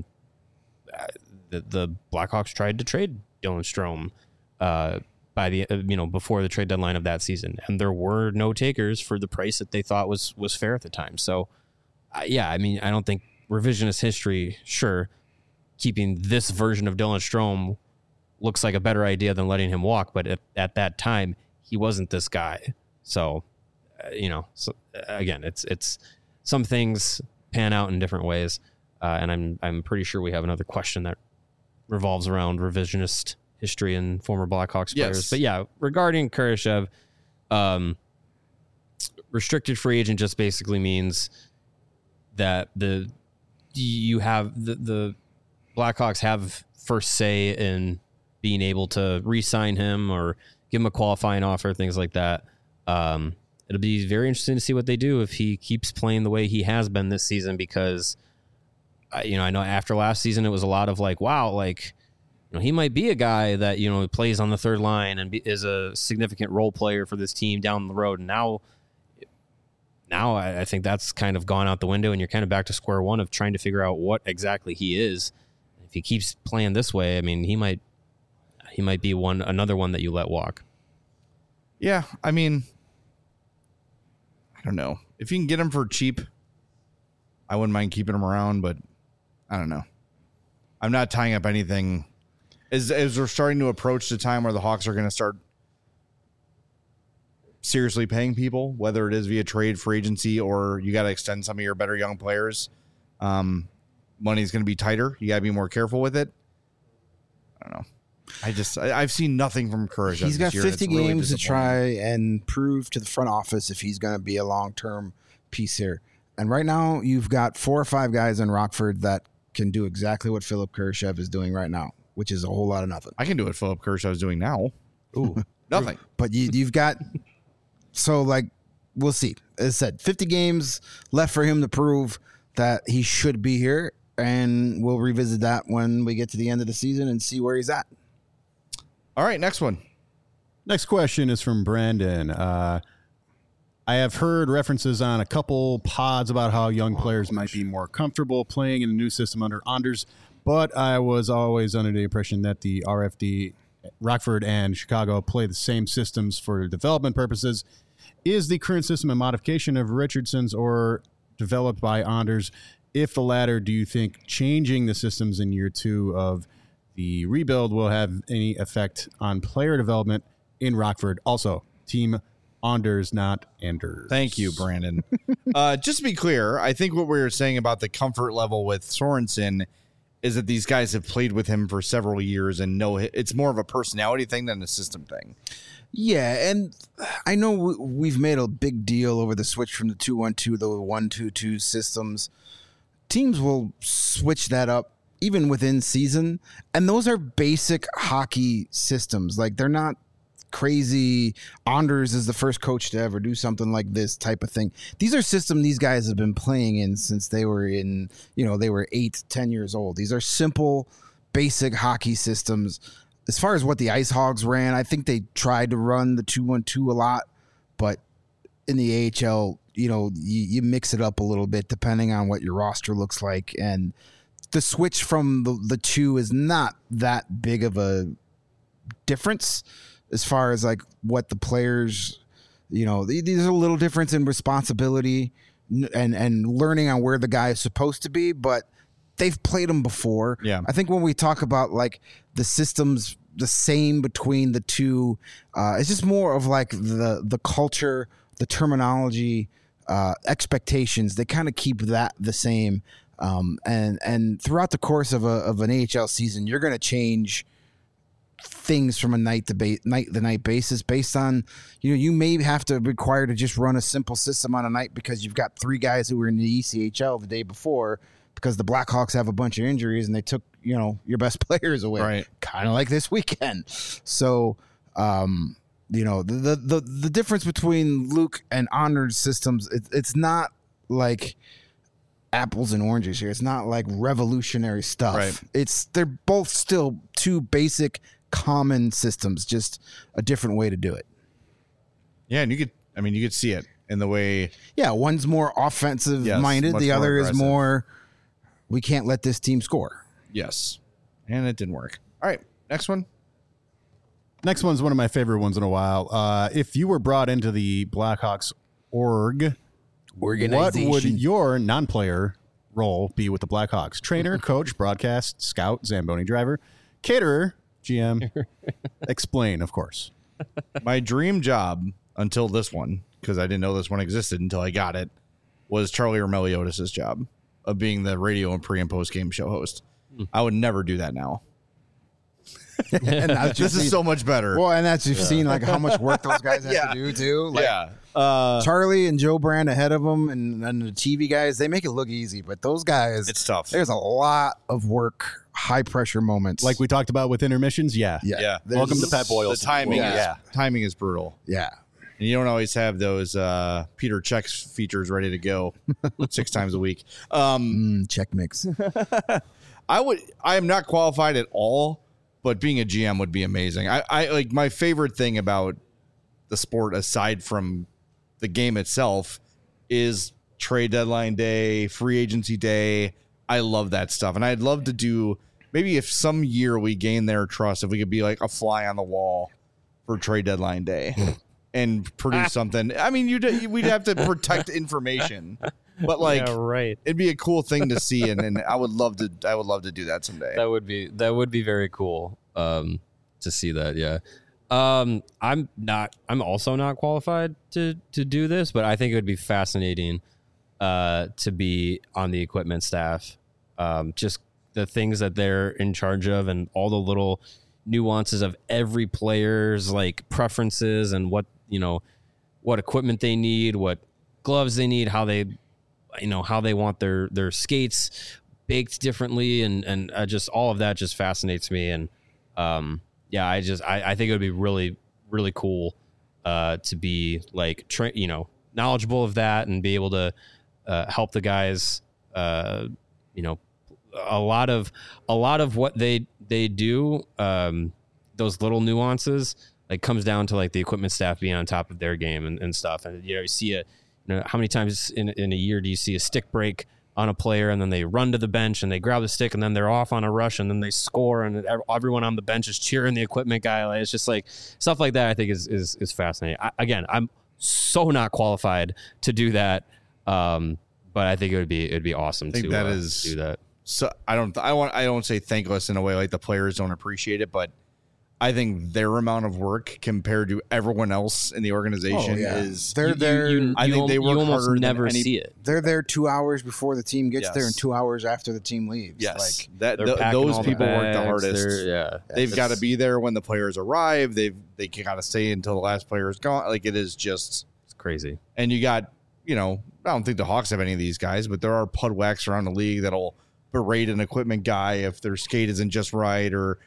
the Blackhawks tried to trade Dylan Strome by the before the trade deadline of that season, and there were no takers for the price that they thought was fair at the time. So, I don't think revisionist history, sure, keeping this version of Dylan Strome looks like a better idea than letting him walk, but at that time he wasn't this guy. So, again, it's some things pan out in different ways, and I'm pretty sure we have another question that revolves around revisionist history and former Blackhawks players. Yes. But yeah, regarding Kurashev, restricted free agent just basically means that the Blackhawks have first say in being able to re-sign him or give him a qualifying offer, things like that. It'll be very interesting to see what they do if he keeps playing the way he has been this season, because I know after last season it was a lot of like, wow, like, he might be a guy that, plays on the third line and is a significant role player for this team down the road. And now I think that's kind of gone out the window, and you're kind of back to square one of trying to figure out what exactly he is. If he keeps playing this way, I mean, he might be another one that you let walk. Yeah, I mean, I don't know. If you can get him for cheap, I wouldn't mind keeping him around, but I don't know. I'm not tying up anything. As we're starting to approach the time where the Hawks are going to start seriously paying people, whether it is via trade, free agency, or you got to extend some of your better young players, money's going to be tighter. You got to be more careful with it. I don't know. I've seen nothing from Kurashev. He's got 50 really games to try and prove to the front office if he's going to be a long-term piece here. And right now, you've got 4 or 5 guys in Rockford that can do exactly what Philip Kurashev is doing right now, which is a whole lot of nothing. I can do what Philip Kurashev is doing now. Ooh, nothing. But you've got, so like, we'll see. As I said, 50 games left for him to prove that he should be here, and we'll revisit that when we get to the end of the season and see where he's at. All right, next one. Next question is from Brandon. I have heard references on a couple pods about how young players might be more comfortable playing in the new system under Anders, but I was always under the impression that the RFD, Rockford and Chicago, play the same systems for development purposes. Is the current system a modification of Richardson's or developed by Anders? If the latter, do you think changing the systems in year 2 of the rebuild will have any effect on player development in Rockford? Also, Team Anders, not Anders. Thank you, Brandon. Just to be clear, I think what we were saying about the comfort level with Sorensen is that these guys have played with him for several years and know it's more of a personality thing than a system thing. Yeah, and I know we've made a big deal over the switch from the 2-1-2 to the 1-2-2 systems. Teams will switch that up even within season, and those are basic hockey systems. Like, they're not crazy. Anders is the first coach to ever do something like this type of thing. These are systems these guys have been playing in since they were 8-10 years old. These are simple, basic hockey systems. As far as what the Ice Hogs ran, I think they tried to run the 2-1-2 a lot, but in the AHL, you mix it up a little bit depending on what your roster looks like, and the switch from the 2 is not that big of a difference as far as like what the players, there's a little difference in responsibility and learning on where the guy is supposed to be, but they've played them before. Yeah. I think when we talk about like the systems, the same between the 2, it's just more of like the culture, the terminology, expectations. They kind of keep that the same. And throughout the course of an AHL season, you're going to change things from a night to night basis based on, you may have to require to just run a simple system on a night because you've got 3 guys who were in the ECHL the day before because the Blackhawks have a bunch of injuries and they took, your best players away. Right. Kind of like this weekend. So, the difference between Luke and Anders systems, it's not like apples and oranges here. It's not like revolutionary stuff. Right. They're both still 2 basic common systems, just a different way to do it. Yeah, and you could see it in the way. Yeah, one's more offensive minded, the other is more, we can't let this team score. Yes. And it didn't work. All right, next one. Next one's one of my favorite ones in a while. If you were brought into the Blackhawks what would your non-player role be with the Blackhawks? Trainer, coach, broadcast, scout, Zamboni driver, caterer, GM. Explain, of course. My dream job until this one, because I didn't know this one existed until I got it, was Charlie Meliodas' job of being the radio and pre and post game show host. I would never do that now. And this is so much better. Well, and that's you've seen like how much work those guys have to do too. Like, Charlie and Joe Brand ahead of them, and the TV guys, they make it look easy, but those guys, it's tough. There's a lot of work, high pressure moments, like we talked about with intermissions. Yeah. Welcome to Pat Boyle. The timing is brutal. Yeah. And you don't always have those Peter Check's features ready to go 6 times a week. Check mix. I am not qualified at all, but being a GM would be amazing. I like my favorite thing about the sport, aside from the game itself, is trade deadline day, free agency day. I love that stuff. And I'd love to do, maybe if some year we gain their trust, if we could be like a fly on the wall for trade deadline day and produce something. I mean, we'd have to protect information, but like, it'd be a cool thing to see. And I would love to do that someday. That would be very cool to see that. Yeah. I'm also not qualified to do this, but I think it would be fascinating to be on the equipment staff. Just the things that they're in charge of and all the little nuances of every player's like preferences and what equipment they need, what gloves they need, how they want their skates baked differently. And just all of that just fascinates me. And, I think it would be really, really cool to be like, knowledgeable of that and be able to help the guys, a lot of what they do, those little nuances, like comes down to like the equipment staff being on top of their game and stuff. And you see how many times in a year do you see a stick break on a player and then they run to the bench and they grab the stick and then they're off on a rush and then they score and everyone on the bench is cheering the equipment guy. Like, it's just like stuff like that. I think is fascinating. I'm so not qualified to do that. But I think it'd be awesome to do that. So I don't say thankless in a way like the players don't appreciate it, but I think their amount of work compared to everyone else in the organization is they're there. I think they work you almost harder never than any, see it. They're there 2 hours before the team gets Yes. there and 2 hours after the team leaves. Yes, Like, those people work the hardest. Yeah, They've got to be there when the players arrive. They got to stay until the last player is gone. Like, it is just it's crazy. And you got, I don't think the Hawks have any of these guys, but there are pud whacks around the league that'll berate an equipment guy if their skate isn't just right, or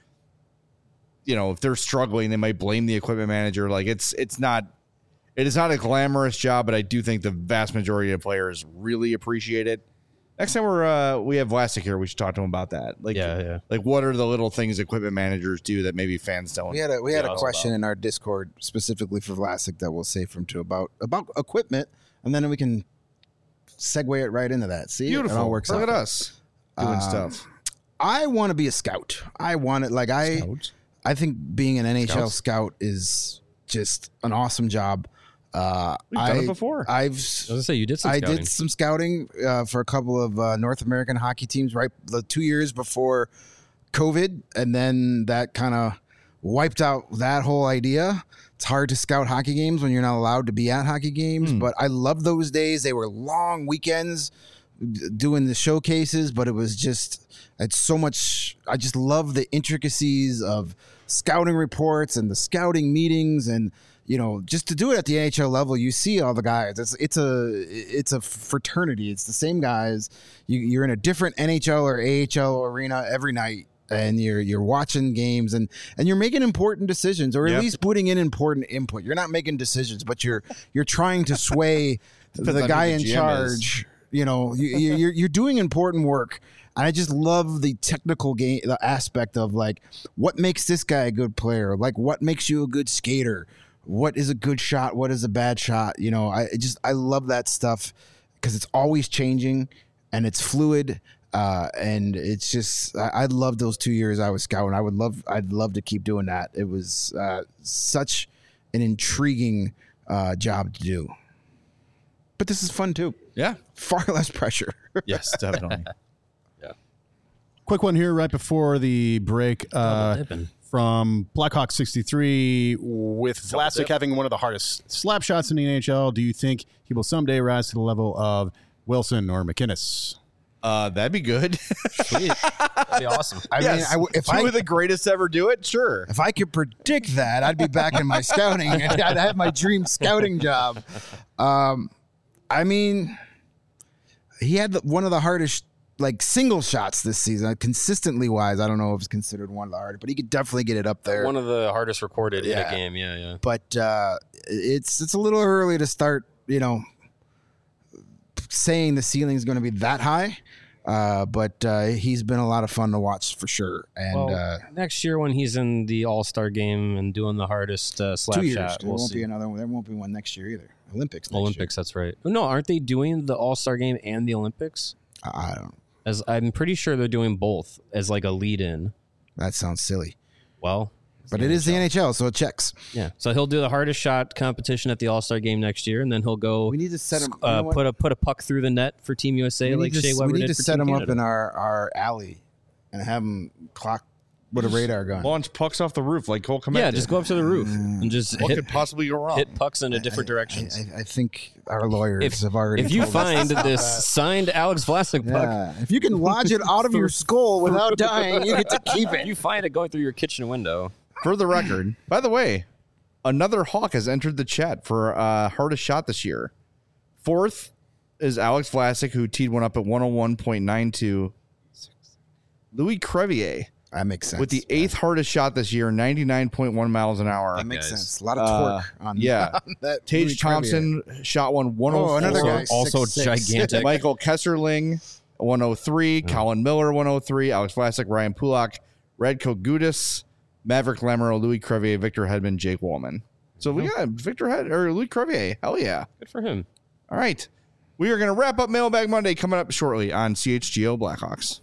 if they're struggling, they might blame the equipment manager. Like, it is not a glamorous job, but I do think the vast majority of players really appreciate it. Next time we have Vlasic here, we should talk to him about that. Like, like what are the little things equipment managers do that maybe fans don't? We had a question in our Discord specifically for Vlasic that we'll save from to about equipment, and then we can segue it right into that. See, beautiful. It all works Look out. at us doing stuff. I want to be a scout. I want it. Like I think being an NHL scout is just an awesome job. We've done it before. I was gonna say you did some I scouting. did some scouting for a couple of North American hockey teams right the 2 years before COVID, and then that kind of wiped out that whole idea. It's hard to scout hockey games when you're not allowed to be at hockey games, but I love those days. They were long weekends doing the showcases, but it's so much. I just love the intricacies of scouting reports and the scouting meetings, and just to do it at the NHL level, you see all the guys. It's a fraternity. It's the same guys. You're in a different NHL or AHL arena every night, and you're watching games and you're making important decisions, or at least putting in important input. You're not making decisions, but you're trying to sway the guy in charge. You're doing important work. And I just love the technical game, the aspect of like what makes this guy a good player, like what makes you a good skater, what is a good shot, what is a bad shot. I love that stuff because it's always changing and it's fluid. And it's just I love those 2 years I was scouting. I'd love to keep doing that. It was such an intriguing job to do. But this is fun too. Yeah, far less pressure. Yes, definitely. Quick one here right before the break from Blackhawk 63 with Vlasic having one of the hardest slap shots in the NHL. Do you think he will someday rise to the level of Wilson or McInnes? That'd be good. Sweet. That'd be awesome. I mean, if two of the greatest ever do it, sure. If I could predict that, I'd be back in my scouting. I'd have my dream scouting job. I mean, he had one of the hardest single shots this season, consistently wise. I don't know if it's considered one of the hardest, but he could definitely get it up there. One of the hardest recorded in a game. Yeah. But it's a little early to start, saying the ceiling is going to be that high. But he's been a lot of fun to watch for sure. And next year when he's in the All-Star game and doing the hardest slap 2 years, shot, there won't be another one. There won't be one next year either. Olympics. Next year. That's right. No, aren't they doing the All-Star game and the Olympics? I don't. As I'm pretty sure they're doing both as like a lead-in. That sounds silly. Well, but it is the NHL, so it checks. Yeah. So he'll do the hardest shot competition at the All-Star game next year, and then he'll go. We need to set him. Put a puck through the net for Team USA, like Shea Weber did. We need to for set Team him up Canada. in our alley and have him clock with a radar gun. Launch pucks off the roof like Cole Komet. Yeah, just go up to the roof and just What could possibly go wrong? hit pucks in a different direction. I think our lawyers have already. If you told us. find this signed Alex Vlasic puck, Yeah. If you can lodge it out of your skull without dying, you get to keep if it. you find it going through your kitchen window. For the record, by the way, another Hawk has entered the chat for hardest shot this year. Fourth is Alex Vlasic, who teed one up at 101.92. Louis Crevier That makes sense. with the eighth hardest shot this year, 99.1 miles an hour. That makes guys. sense. A lot of torque on Yeah. on that. Tage Louis Thompson shot one 104. Oh, another guy. Also 6'6". gigantic. Michael Kesserling, 103. Colin Miller, 103. Alex Vlasic, Ryan Pulak, Radko Gudis, Maverick Lamoureux, Louis Crevier, Victor Hedman, Jake Wallman. So we got Louis Crevier. Hell yeah. Good for him. All right. We are going to wrap up Mailbag Monday coming up shortly on CHGO Blackhawks.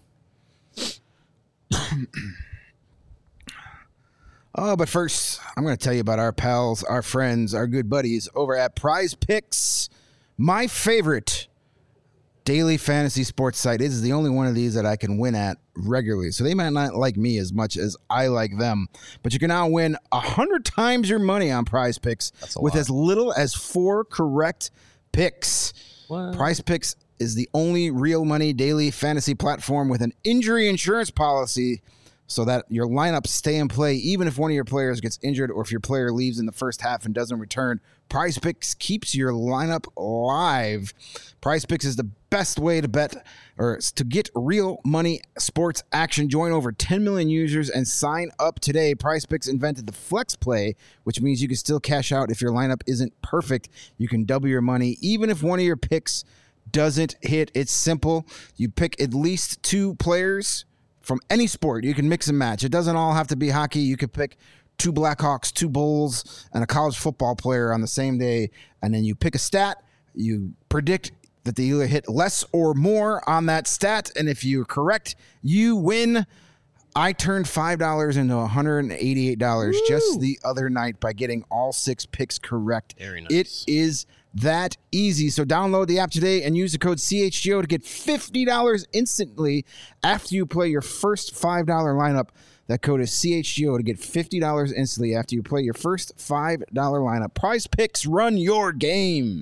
But first, I'm going to tell you about our pals, our friends, our good buddies over at Prize Picks, my favorite daily fantasy sports site. It is the only one of these that I can win at regularly. So they might not like me as much as I like them, but you can now win 100 times your money on Prize Picks with as little as 4 correct picks. What? Prize Picks is the only real money daily fantasy platform with an injury insurance policy so that your lineups stay in play even if one of your players gets injured or if your player leaves in the first half and doesn't return. Prize Picks keeps your lineup live. Prize Picks is the best way to bet or to get real money sports action. Join over 10 million users and sign up today. Prize Picks invented the flex play, which means you can still cash out if your lineup isn't perfect. You can double your money even if one of your picks doesn't hit. It's simple. You pick at least 2 players from any sport. You can mix and match. It doesn't all have to be hockey. You could pick 2 Blackhawks, 2 Bulls, and a college football player on the same day, and then you pick a stat. You predict that they either hit less or more on that stat, and if you're correct, you win. I turned $5 into $188 just the other night by getting all 6 picks correct. Very nice. It is that easy. So download the app today and use the code CHGO to get $50 instantly after you play your first $5 lineup. That code is CHGO to get $50 instantly after you play your first $5 lineup. Prize Picks, run your game.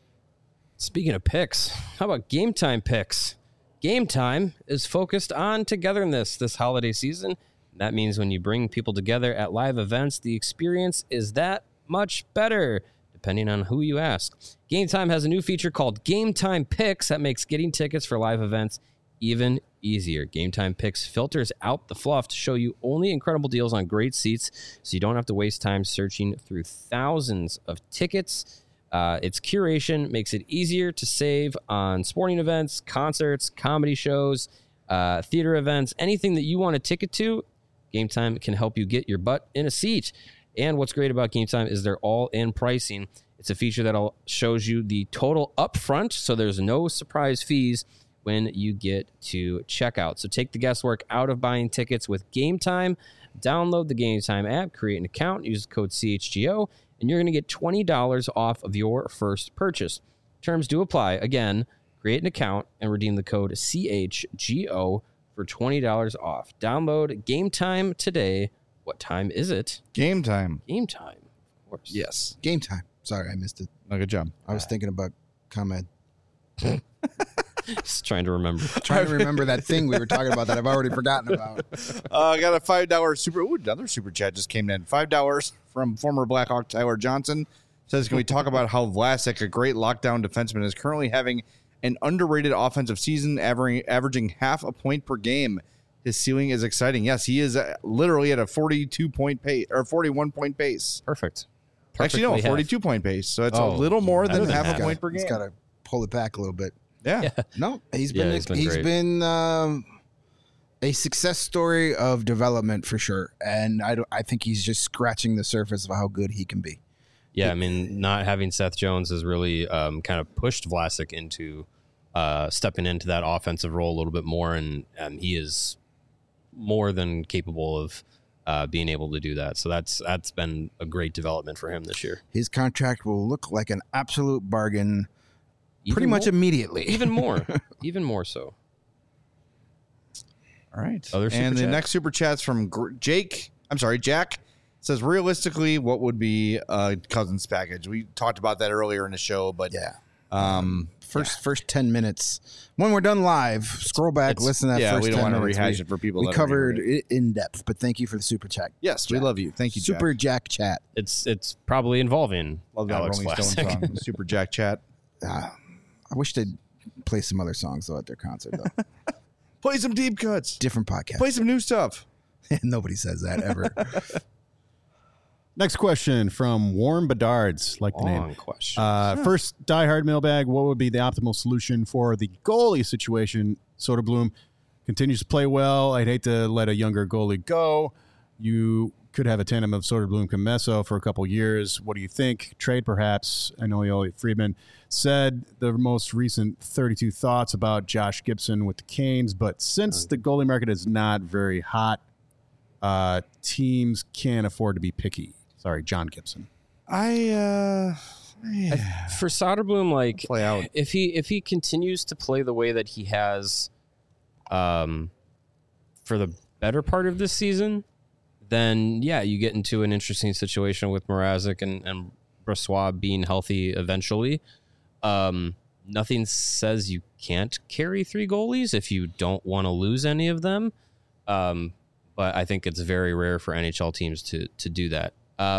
Speaking of picks, how about Game Time picks? Game Time is focused on togetherness this holiday season. That means when you bring people together at live events, the experience is that much better, depending on who you ask. Game Time has a new feature called Game Time Picks that makes getting tickets for live events even easier. Game Time Picks filters out the fluff to show you only incredible deals on great seats, so you don't have to waste time searching through thousands of tickets. Its curation makes it easier to save on sporting events, concerts, comedy shows, theater events, anything that you want a ticket to. Game Time can help you get your butt in a seat. And what's great about Game Time is they're all-in pricing. It's a feature that shows you the total upfront, so there's no surprise fees when you get to checkout. So take the guesswork out of buying tickets with Game Time. Download the Game Time app, create an account, use the code CHGO, and you're going to get $20 off of your first purchase. Terms do apply. Again, create an account and redeem the code CHGO for $20 off. Download Game Time today. What time is it? Game time. Game time, of course. Yes. Game time. Sorry, I missed it. No, good job. I was thinking about ComEd. Just trying to remember. Trying to remember that thing we were talking about that I've already forgotten about. I got a $5 super. Ooh, another super chat just came in. $5 from former Blackhawk Tyler Johnson. Says, can we talk about how Vlasic, a great lockdown defenseman, is currently having an underrated offensive season, averaging half a point per game. His ceiling is exciting. Yes, he is literally at a 42-point pace or 41-point pace. Perfect. Actually, no, 42-point pace. So it's a little more than half a point per game. He's got to pull it back a little bit. Yeah. No, he's Yeah, been great. A success story of development for sure, and I think he's just scratching the surface of how good he can be. Yeah, I mean, not having Seth Jones has really kind of pushed Vlasic into stepping into that offensive role a little bit more, and he is more than capable of being able to do that. So that's been a great development for him this year. His contract will look like an absolute bargain pretty much immediately. Even more so. All right. Other super and the chat? next super chat's from Jack. Says, realistically, what would be a Cousins package? We talked about that earlier in the show, but yeah. First 10 minutes. When we're done live, scroll back, listen to that first 10 minutes. we don't want to rehash it for people. We that covered it in depth, but thank you for the super chat. Yes, we love you. Thank you, Jack. Super Jack chat. It's probably involving Love that Alex Rolling Stone Vlasic. song, Super Jack chat. I wish they'd play some other songs though at their concert though. Play some deep cuts. Different podcast. Play some new stuff. Nobody says that ever. Next question from Warren Bedards, like the Long name. question. First, diehard mailbag. What would be the optimal solution for the goalie situation? Soderblom continues to play well. I'd hate to let a younger goalie go. You could have a tandem of Soderblom Comesso for a couple years. What do you think? Trade perhaps? I know Elliot Friedman said the most recent 32 thoughts about Josh Gibson with the Canes, but since the goalie market is not very hot, teams can't afford to be picky. Sorry, John Gibson. For Soderblom, like Play out. if he continues to play the way that he has, for the better part of this season, then yeah, you get into an interesting situation with Mrazek and Brossoit being healthy eventually. Nothing says you can't carry 3 goalies if you don't want to lose any of them. But I think it's very rare for NHL teams to do that.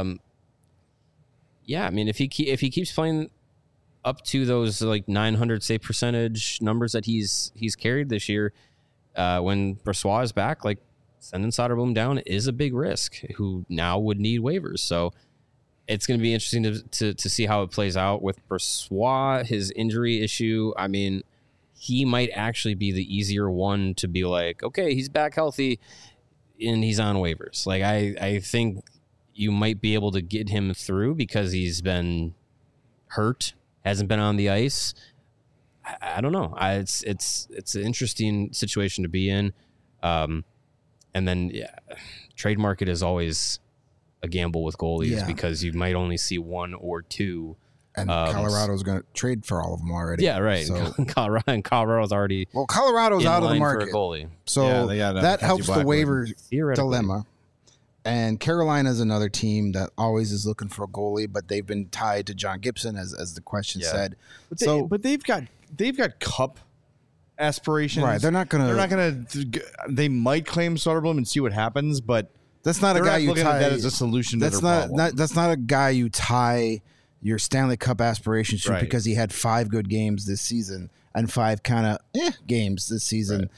Yeah, I mean, if he keeps playing up to those like 900 save percentage numbers that he's carried this year, when Brossoit is back, like sending Soderblom down is a big risk. Who now would need waivers, so it's going to be interesting to see how it plays out with Brossoit. His injury issue, I mean, he might actually be the easier one to be like, okay, he's back healthy and he's on waivers. Like I think you might be able to get him through because he's been hurt, hasn't been on the ice. I don't know. It's an interesting situation to be in. And then trade market is always a gamble with goalies because you might only see 1 or 2. And Colorado's going to trade for all of them already. Yeah, right. So, Colorado's already Colorado's in out of the line market. for a goalie. So that helps the waiver Theoretically. dilemma. And Carolina's another team that always is looking for a goalie, but they've been tied to John Gibson, as the question said. But they've got cup aspirations. Right, they're not gonna. They might claim Soderblom and see what happens, but That's not a they're guy not you looking tie. at that as a solution. That's to their not, problem. that's not a guy you tie your Stanley Cup aspirations to Right. because he had 5 good games this season and 5 kind of games this season.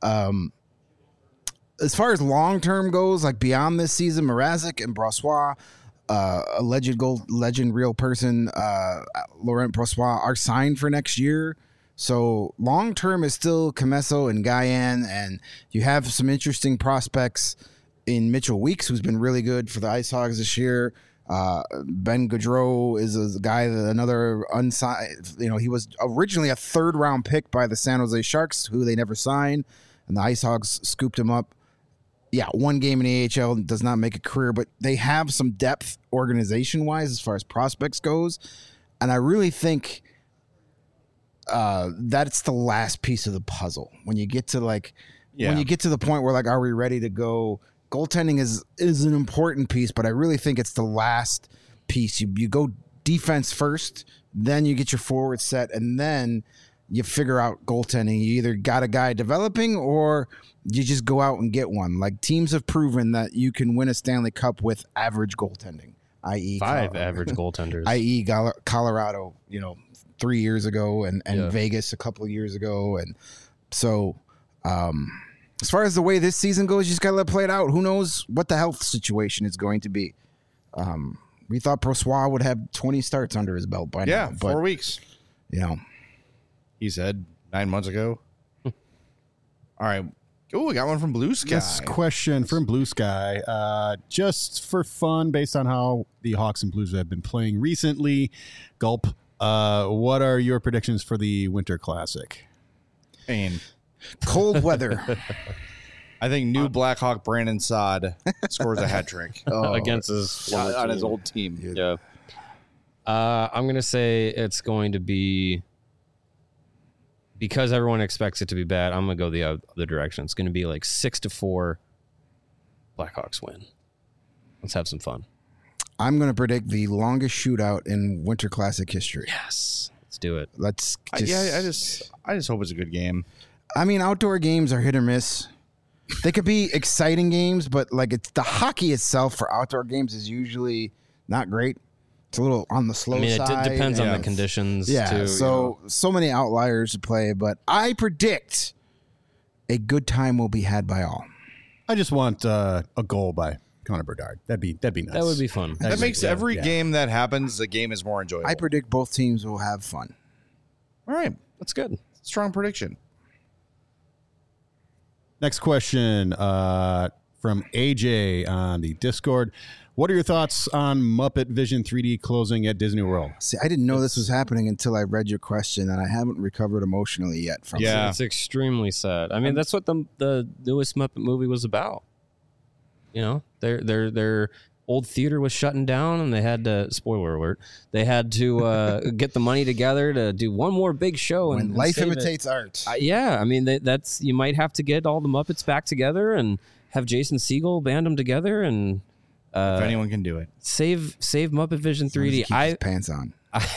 As far as long term goes, like beyond this season, Mrazek and Brossoit, a legend, real person, Laurent Brossoit, are signed for next year. So long term is still Comesso and Guyan, and you have some interesting prospects in Mitchell Weeks, who's been really good for the Ice Hogs this year. Ben Gaudreau is a guy that another unsigned. He was originally a 3rd round pick by the San Jose Sharks, who they never signed, and the Ice Hogs scooped him up. Yeah, 1 game in the AHL does not make a career, but they have some depth organization-wise as far as prospects goes, and I really think that's the last piece of the puzzle. When you get to when you get to the point where are we ready to go? Goaltending is an important piece, but I really think it's the last piece. You go defense first, then you get your forward set, and then you figure out goaltending. You either got a guy developing or you just go out and get one. Like teams have proven that you can win a Stanley Cup with average goaltending, i.e. 5 average goaltenders. i.e. Colorado, 3 years ago and Vegas a couple of years ago. And so as far as the way this season goes, you just got to let it play it out. Who knows what the health situation is going to be. We thought Brossoit would have 20 starts under his belt by now. Yeah, but 4 weeks. He said 9 months ago. All right. Oh, we got one from Blue Sky. This question from Blue Sky, just for fun, based on how the Hawks and Blues have been playing recently. Gulp. What are your predictions for the Winter Classic? And Cold weather. I think new Blackhawk Brandon Saad scores a hat trick against his former on his team. old team. Yeah. I'm going to say it's going to be, because everyone expects it to be bad, I'm going to go the other direction. It's going to be like 6-4 Blackhawks win. Let's have some fun. I'm going to predict the longest shootout in Winter Classic history. Yes. Let's do it. Let's I just hope it's a good game. I mean, outdoor games are hit or miss. They could be exciting games, but it's the hockey itself for outdoor games is usually not great. It's a little on the slow side. It depends on the conditions, too. So many outliers to play, but I predict a good time will be had by all. I just want a goal by Connor Bedard. That'd be nice. That would be fun. That makes every game that happens, the game is more enjoyable. I predict both teams will have fun. All right. That's good. Strong prediction. Next question from from AJ on the Discord. What are your thoughts on Muppet Vision 3D closing at Disney World? See, I didn't know this was happening until I read your question, and I haven't recovered emotionally yet from Yeah. it. It's extremely sad. I mean, that's what the newest Muppet movie was about. You know, their old theater was shutting down, and they had to, spoiler alert, they had to get the money together to do one more big show. When and life save it. imitates art. Yeah, I mean, that's you might have to get all the Muppets back together and have Jason Segel band them together and If anyone can do it. save Muppet Vision As long as he 3D. keeps his pants on.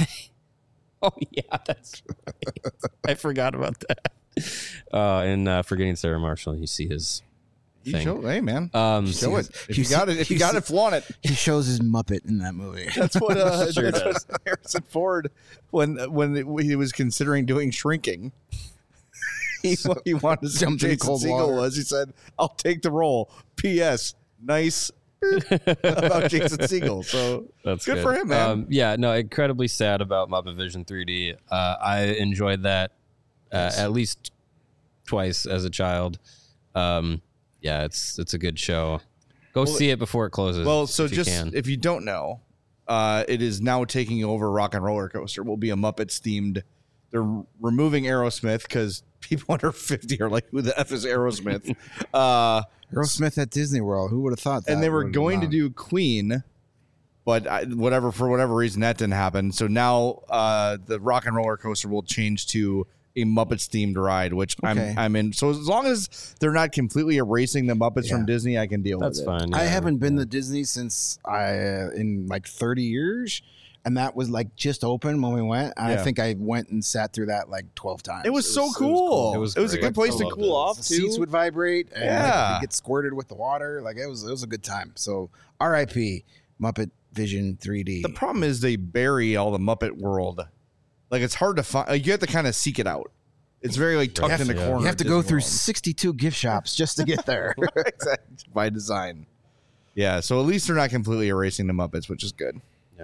Oh yeah, that's right. I forgot about that. And Forgetting Sarah Marshall, you see his thing. Hey, man. Show it. If you you got it, if you got it, flaunt it. He shows his Muppet in that movie. That's what, Sure that's what Harrison Ford, when he was considering doing Shrinking, he wanted to see Jumped in Jason cold Segel water. was. He said, "I'll take the role." P.S. Nice about Jason Segel. So That's good for him, man. Yeah, no, incredibly sad about Muppet Vision 3D. I enjoyed that at least twice as a child. Yeah, it's a good show. Go see it before it closes. Well, so if you just can. if you don't know, it is now taking over Rock and Roller Coaster. Will be a Muppets themed. They're removing Aerosmith because people under 50 are like, "Who the F is Aerosmith?" Aerosmith at Disney World. Who would have thought that? And they were would going to have do Queen, but for whatever reason that didn't happen. So now the Rock and Roller Coaster will change to a Muppets themed ride, which Okay. I'm in. So as long as they're not completely erasing the Muppets from Yeah. Disney, I can deal That's with it. fine. I yeah. haven't been to Disney since in like 30 years, and that was like just open when we went. And Yeah. I think I went and sat through that like 12 times. It was so cool. It was a great. good place I to loved cool it. off The too. seats would vibrate and Yeah. like, get squirted with the water. Like it was a good time. So R.I.P. Muppet Vision 3D. The problem is they bury all the Muppet World. Like it's hard to find. Like, you have to kind of seek it out. It's very like tucked in the corner. you have to at go Disney through World. 62 gift shops just to get there. Exactly. By design. Yeah, so at least they're not completely erasing the Muppets, which is good.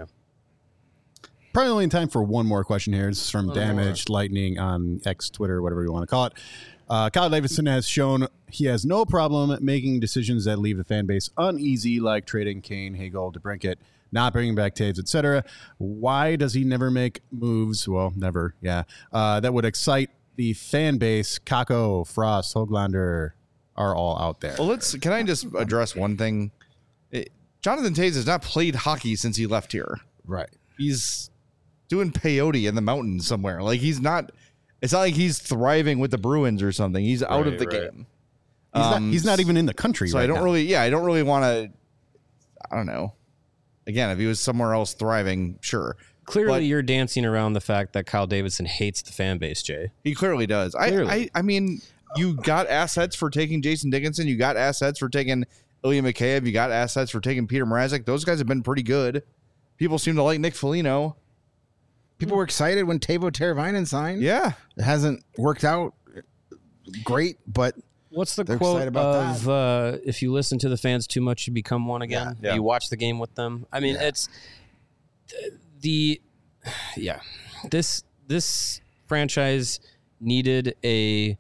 Probably only in time for one more question here. This is from Damaged Lightning on X, Twitter, whatever you want to call it. Kyle Davidson has shown he has no problem making decisions that leave the fan base uneasy, like trading Kane, Hagel, DeBrincat, not bringing back Taves, etc. Why does he never make moves? Well, never, yeah. That would excite the fan base. Kako, Frost, Hoglander are all out there. Well, can I just address one thing? Jonathan Taves has not played hockey since he left here. Right. He's doing peyote in the mountains somewhere. Like it's not like he's thriving with the Bruins or something. He's out of the right. game. He's not even in the country So right I don't now. really want to, I don't know. Again, if he was somewhere else thriving, sure. Clearly, But- you're dancing around the fact that Kyle Davidson hates the fan base, Jay. He clearly does. Clearly. I mean, you got assets for taking Jason Dickinson. You got assets for taking Ilya Mikheyev. You got assets for taking Peter Mrazek. Those guys have been pretty good. People seem to like Nick Foligno. People were excited when Teuvo Teravainen signed. Yeah. It hasn't worked out great, but What's the They're quote excited about of if you listen to the fans too much, you become one again? Yeah. You watch the game with them. I mean, it's this franchise needed a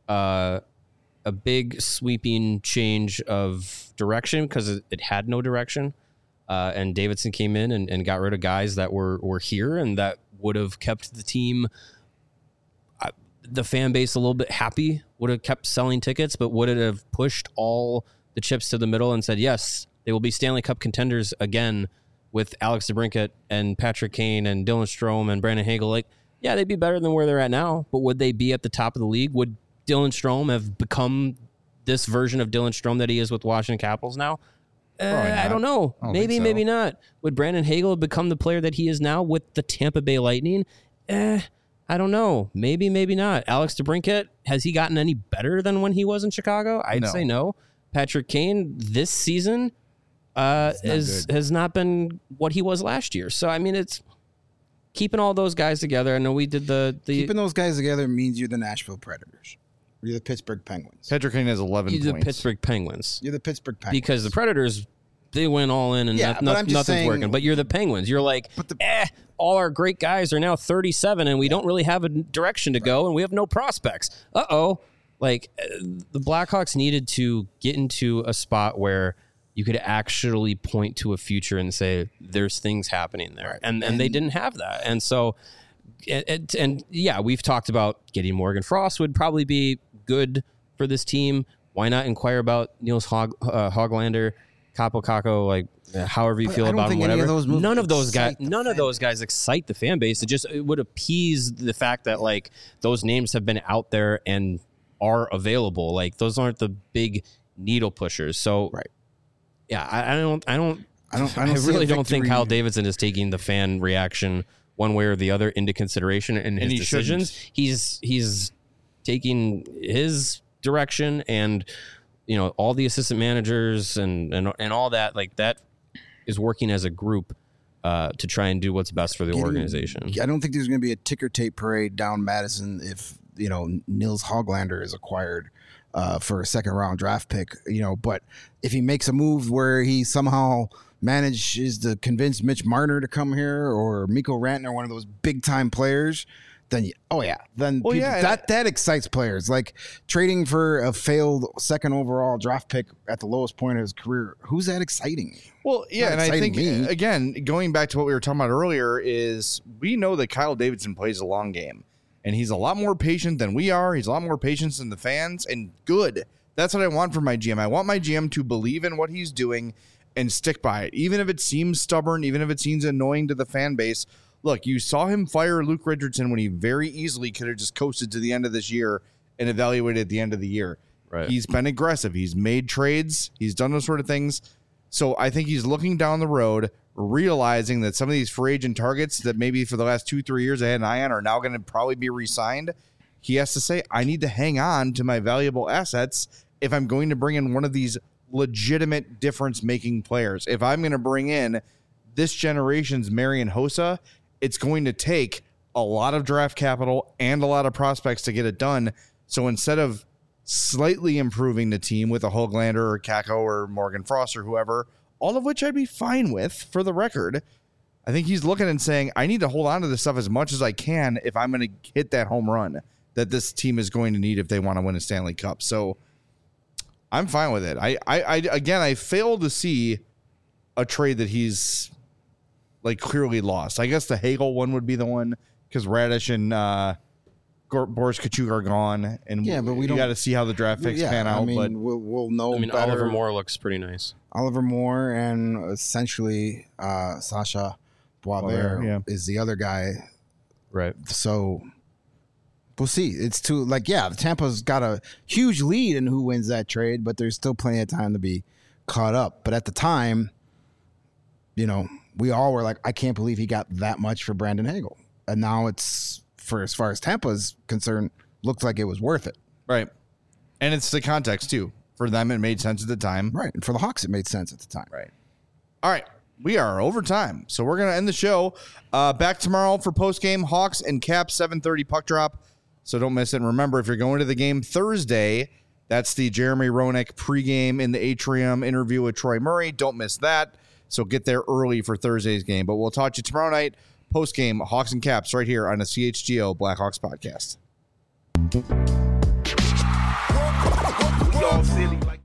big sweeping change of direction because it had no direction. And Davidson came in and got rid of guys that were here and that would have kept the team, the fan base a little bit happy, would have kept selling tickets, but would it have pushed all the chips to the middle and said, yes, they will be Stanley Cup contenders again with Alex DeBrincat and Patrick Kane and Dylan Strome and Brandon Hagel. Like, yeah, they'd be better than where they're at now, but would they be at the top of the league? Would Dylan Strome have become this version of Dylan Strome that he is with Washington Capitals now? I don't know. I don't Maybe, think so. maybe not. Would Brandon Hagel have become the player that he is now with the Tampa Bay Lightning? I don't know. Maybe, maybe not. Alex DeBrincat, has he gotten any better than when he was in Chicago? I'd No. say no. Patrick Kane this season has not been what he was last year. So, I mean, it's keeping all those guys together. I know we did the keeping those guys together means you're the Nashville Predators. You're the Pittsburgh Penguins. Patrick Kane has 11 the points. Pittsburgh Penguins. You're the Pittsburgh Penguins. Because the Predators, they went all in and Yeah, but I'm just nothing's saying- working. But you're the Penguins. You're like, all our great guys are now 37 and we don't really have a direction to go and we have no prospects. Uh-oh. Like the Blackhawks needed to get into a spot where you could actually point to a future and say there's things happening there, and they didn't have that. And so, and yeah, we've talked about getting Morgan Frost would probably be good for this team. Why not inquire about Niels Hoglander, Capo Caco, like however you feel about him, whatever. None of those guys excite the fan base. It would appease the fact that like those names have been out there and are available. Like those aren't the big needle pushers. So yeah, I really don't think Kyle Davidson is taking the fan reaction one way or the other into consideration in his decisions. He's taking his direction, and you know, all the assistant managers and all that, like that is working as a group to try and do what's best for the organization. I don't think there's going to be a ticker tape parade down Madison if, you know, Niels Hoglander is acquired for a second round draft pick, you know, but if he makes a move where he somehow manages to convince Mitch Marner to come here or Mikko Rantanen, one of those big time players, then that excites players. Like trading for a failed second overall draft pick at the lowest point of his career, who's that exciting? Well, yeah, and I think again, going back to what we were talking about earlier, is we know that Kyle Davidson plays a long game. And he's a lot more patient than we are. He's a lot more patient than the fans, and good. That's what I want from my GM. I want my GM to believe in what he's doing and stick by it, even if it seems stubborn, even if it seems annoying to the fan base. Look, you saw him fire Luke Richardson when he very easily could have just coasted to the end of this year and evaluated at the end of the year. Right. He's been aggressive. He's made trades. He's done those sort of things. So I think he's looking down the road, realizing that some of these free agent targets that maybe for the last 2-3 years I had an eye on are now going to probably be re-signed. He has to say, I need to hang on to my valuable assets if I'm going to bring in one of these legitimate difference-making players. If I'm going to bring in this generation's Marian Hossa, it's going to take a lot of draft capital and a lot of prospects to get it done. So instead of slightly improving the team with a Hoglander or Caco or Morgan Frost or whoever, all of which I'd be fine with for the record, I think he's looking and saying, I need to hold on to this stuff as much as I can if I'm going to hit that home run that this team is going to need if they want to win a Stanley Cup. So I'm fine with it. I fail to see a trade that he's like clearly lost. I guess the Hagel one would be the one because Radish and Boris Kachuk are gone, and but we got to see how the draft picks pan out. I mean, but we'll know. I mean, better. Oliver Moore looks pretty nice. Oliver Moore and essentially Sasha Boisvert is the other guy, right? So we'll see. It's too Tampa's got a huge lead in who wins that trade, but there's still plenty of time to be caught up. But at the time, you know, we all were like, I can't believe he got that much for Brandon Hagel, and now it's. For as far as Tampa's concerned, looked like it was worth it. Right. And it's the context, too. For them, it made sense at the time. Right. And for the Hawks, it made sense at the time. Right. All right. We are over time. So we're going to end the show. Back tomorrow for postgame. Hawks and Caps, 7:30 puck drop. So don't miss it. And remember, if you're going to the game Thursday, that's the Jeremy Roenick pregame in the Atrium interview with Troy Murray. Don't miss that. So get there early for Thursday's game. But we'll talk to you tomorrow night. Post-game, Hawks and Caps, right here on the CHGO Blackhawks podcast.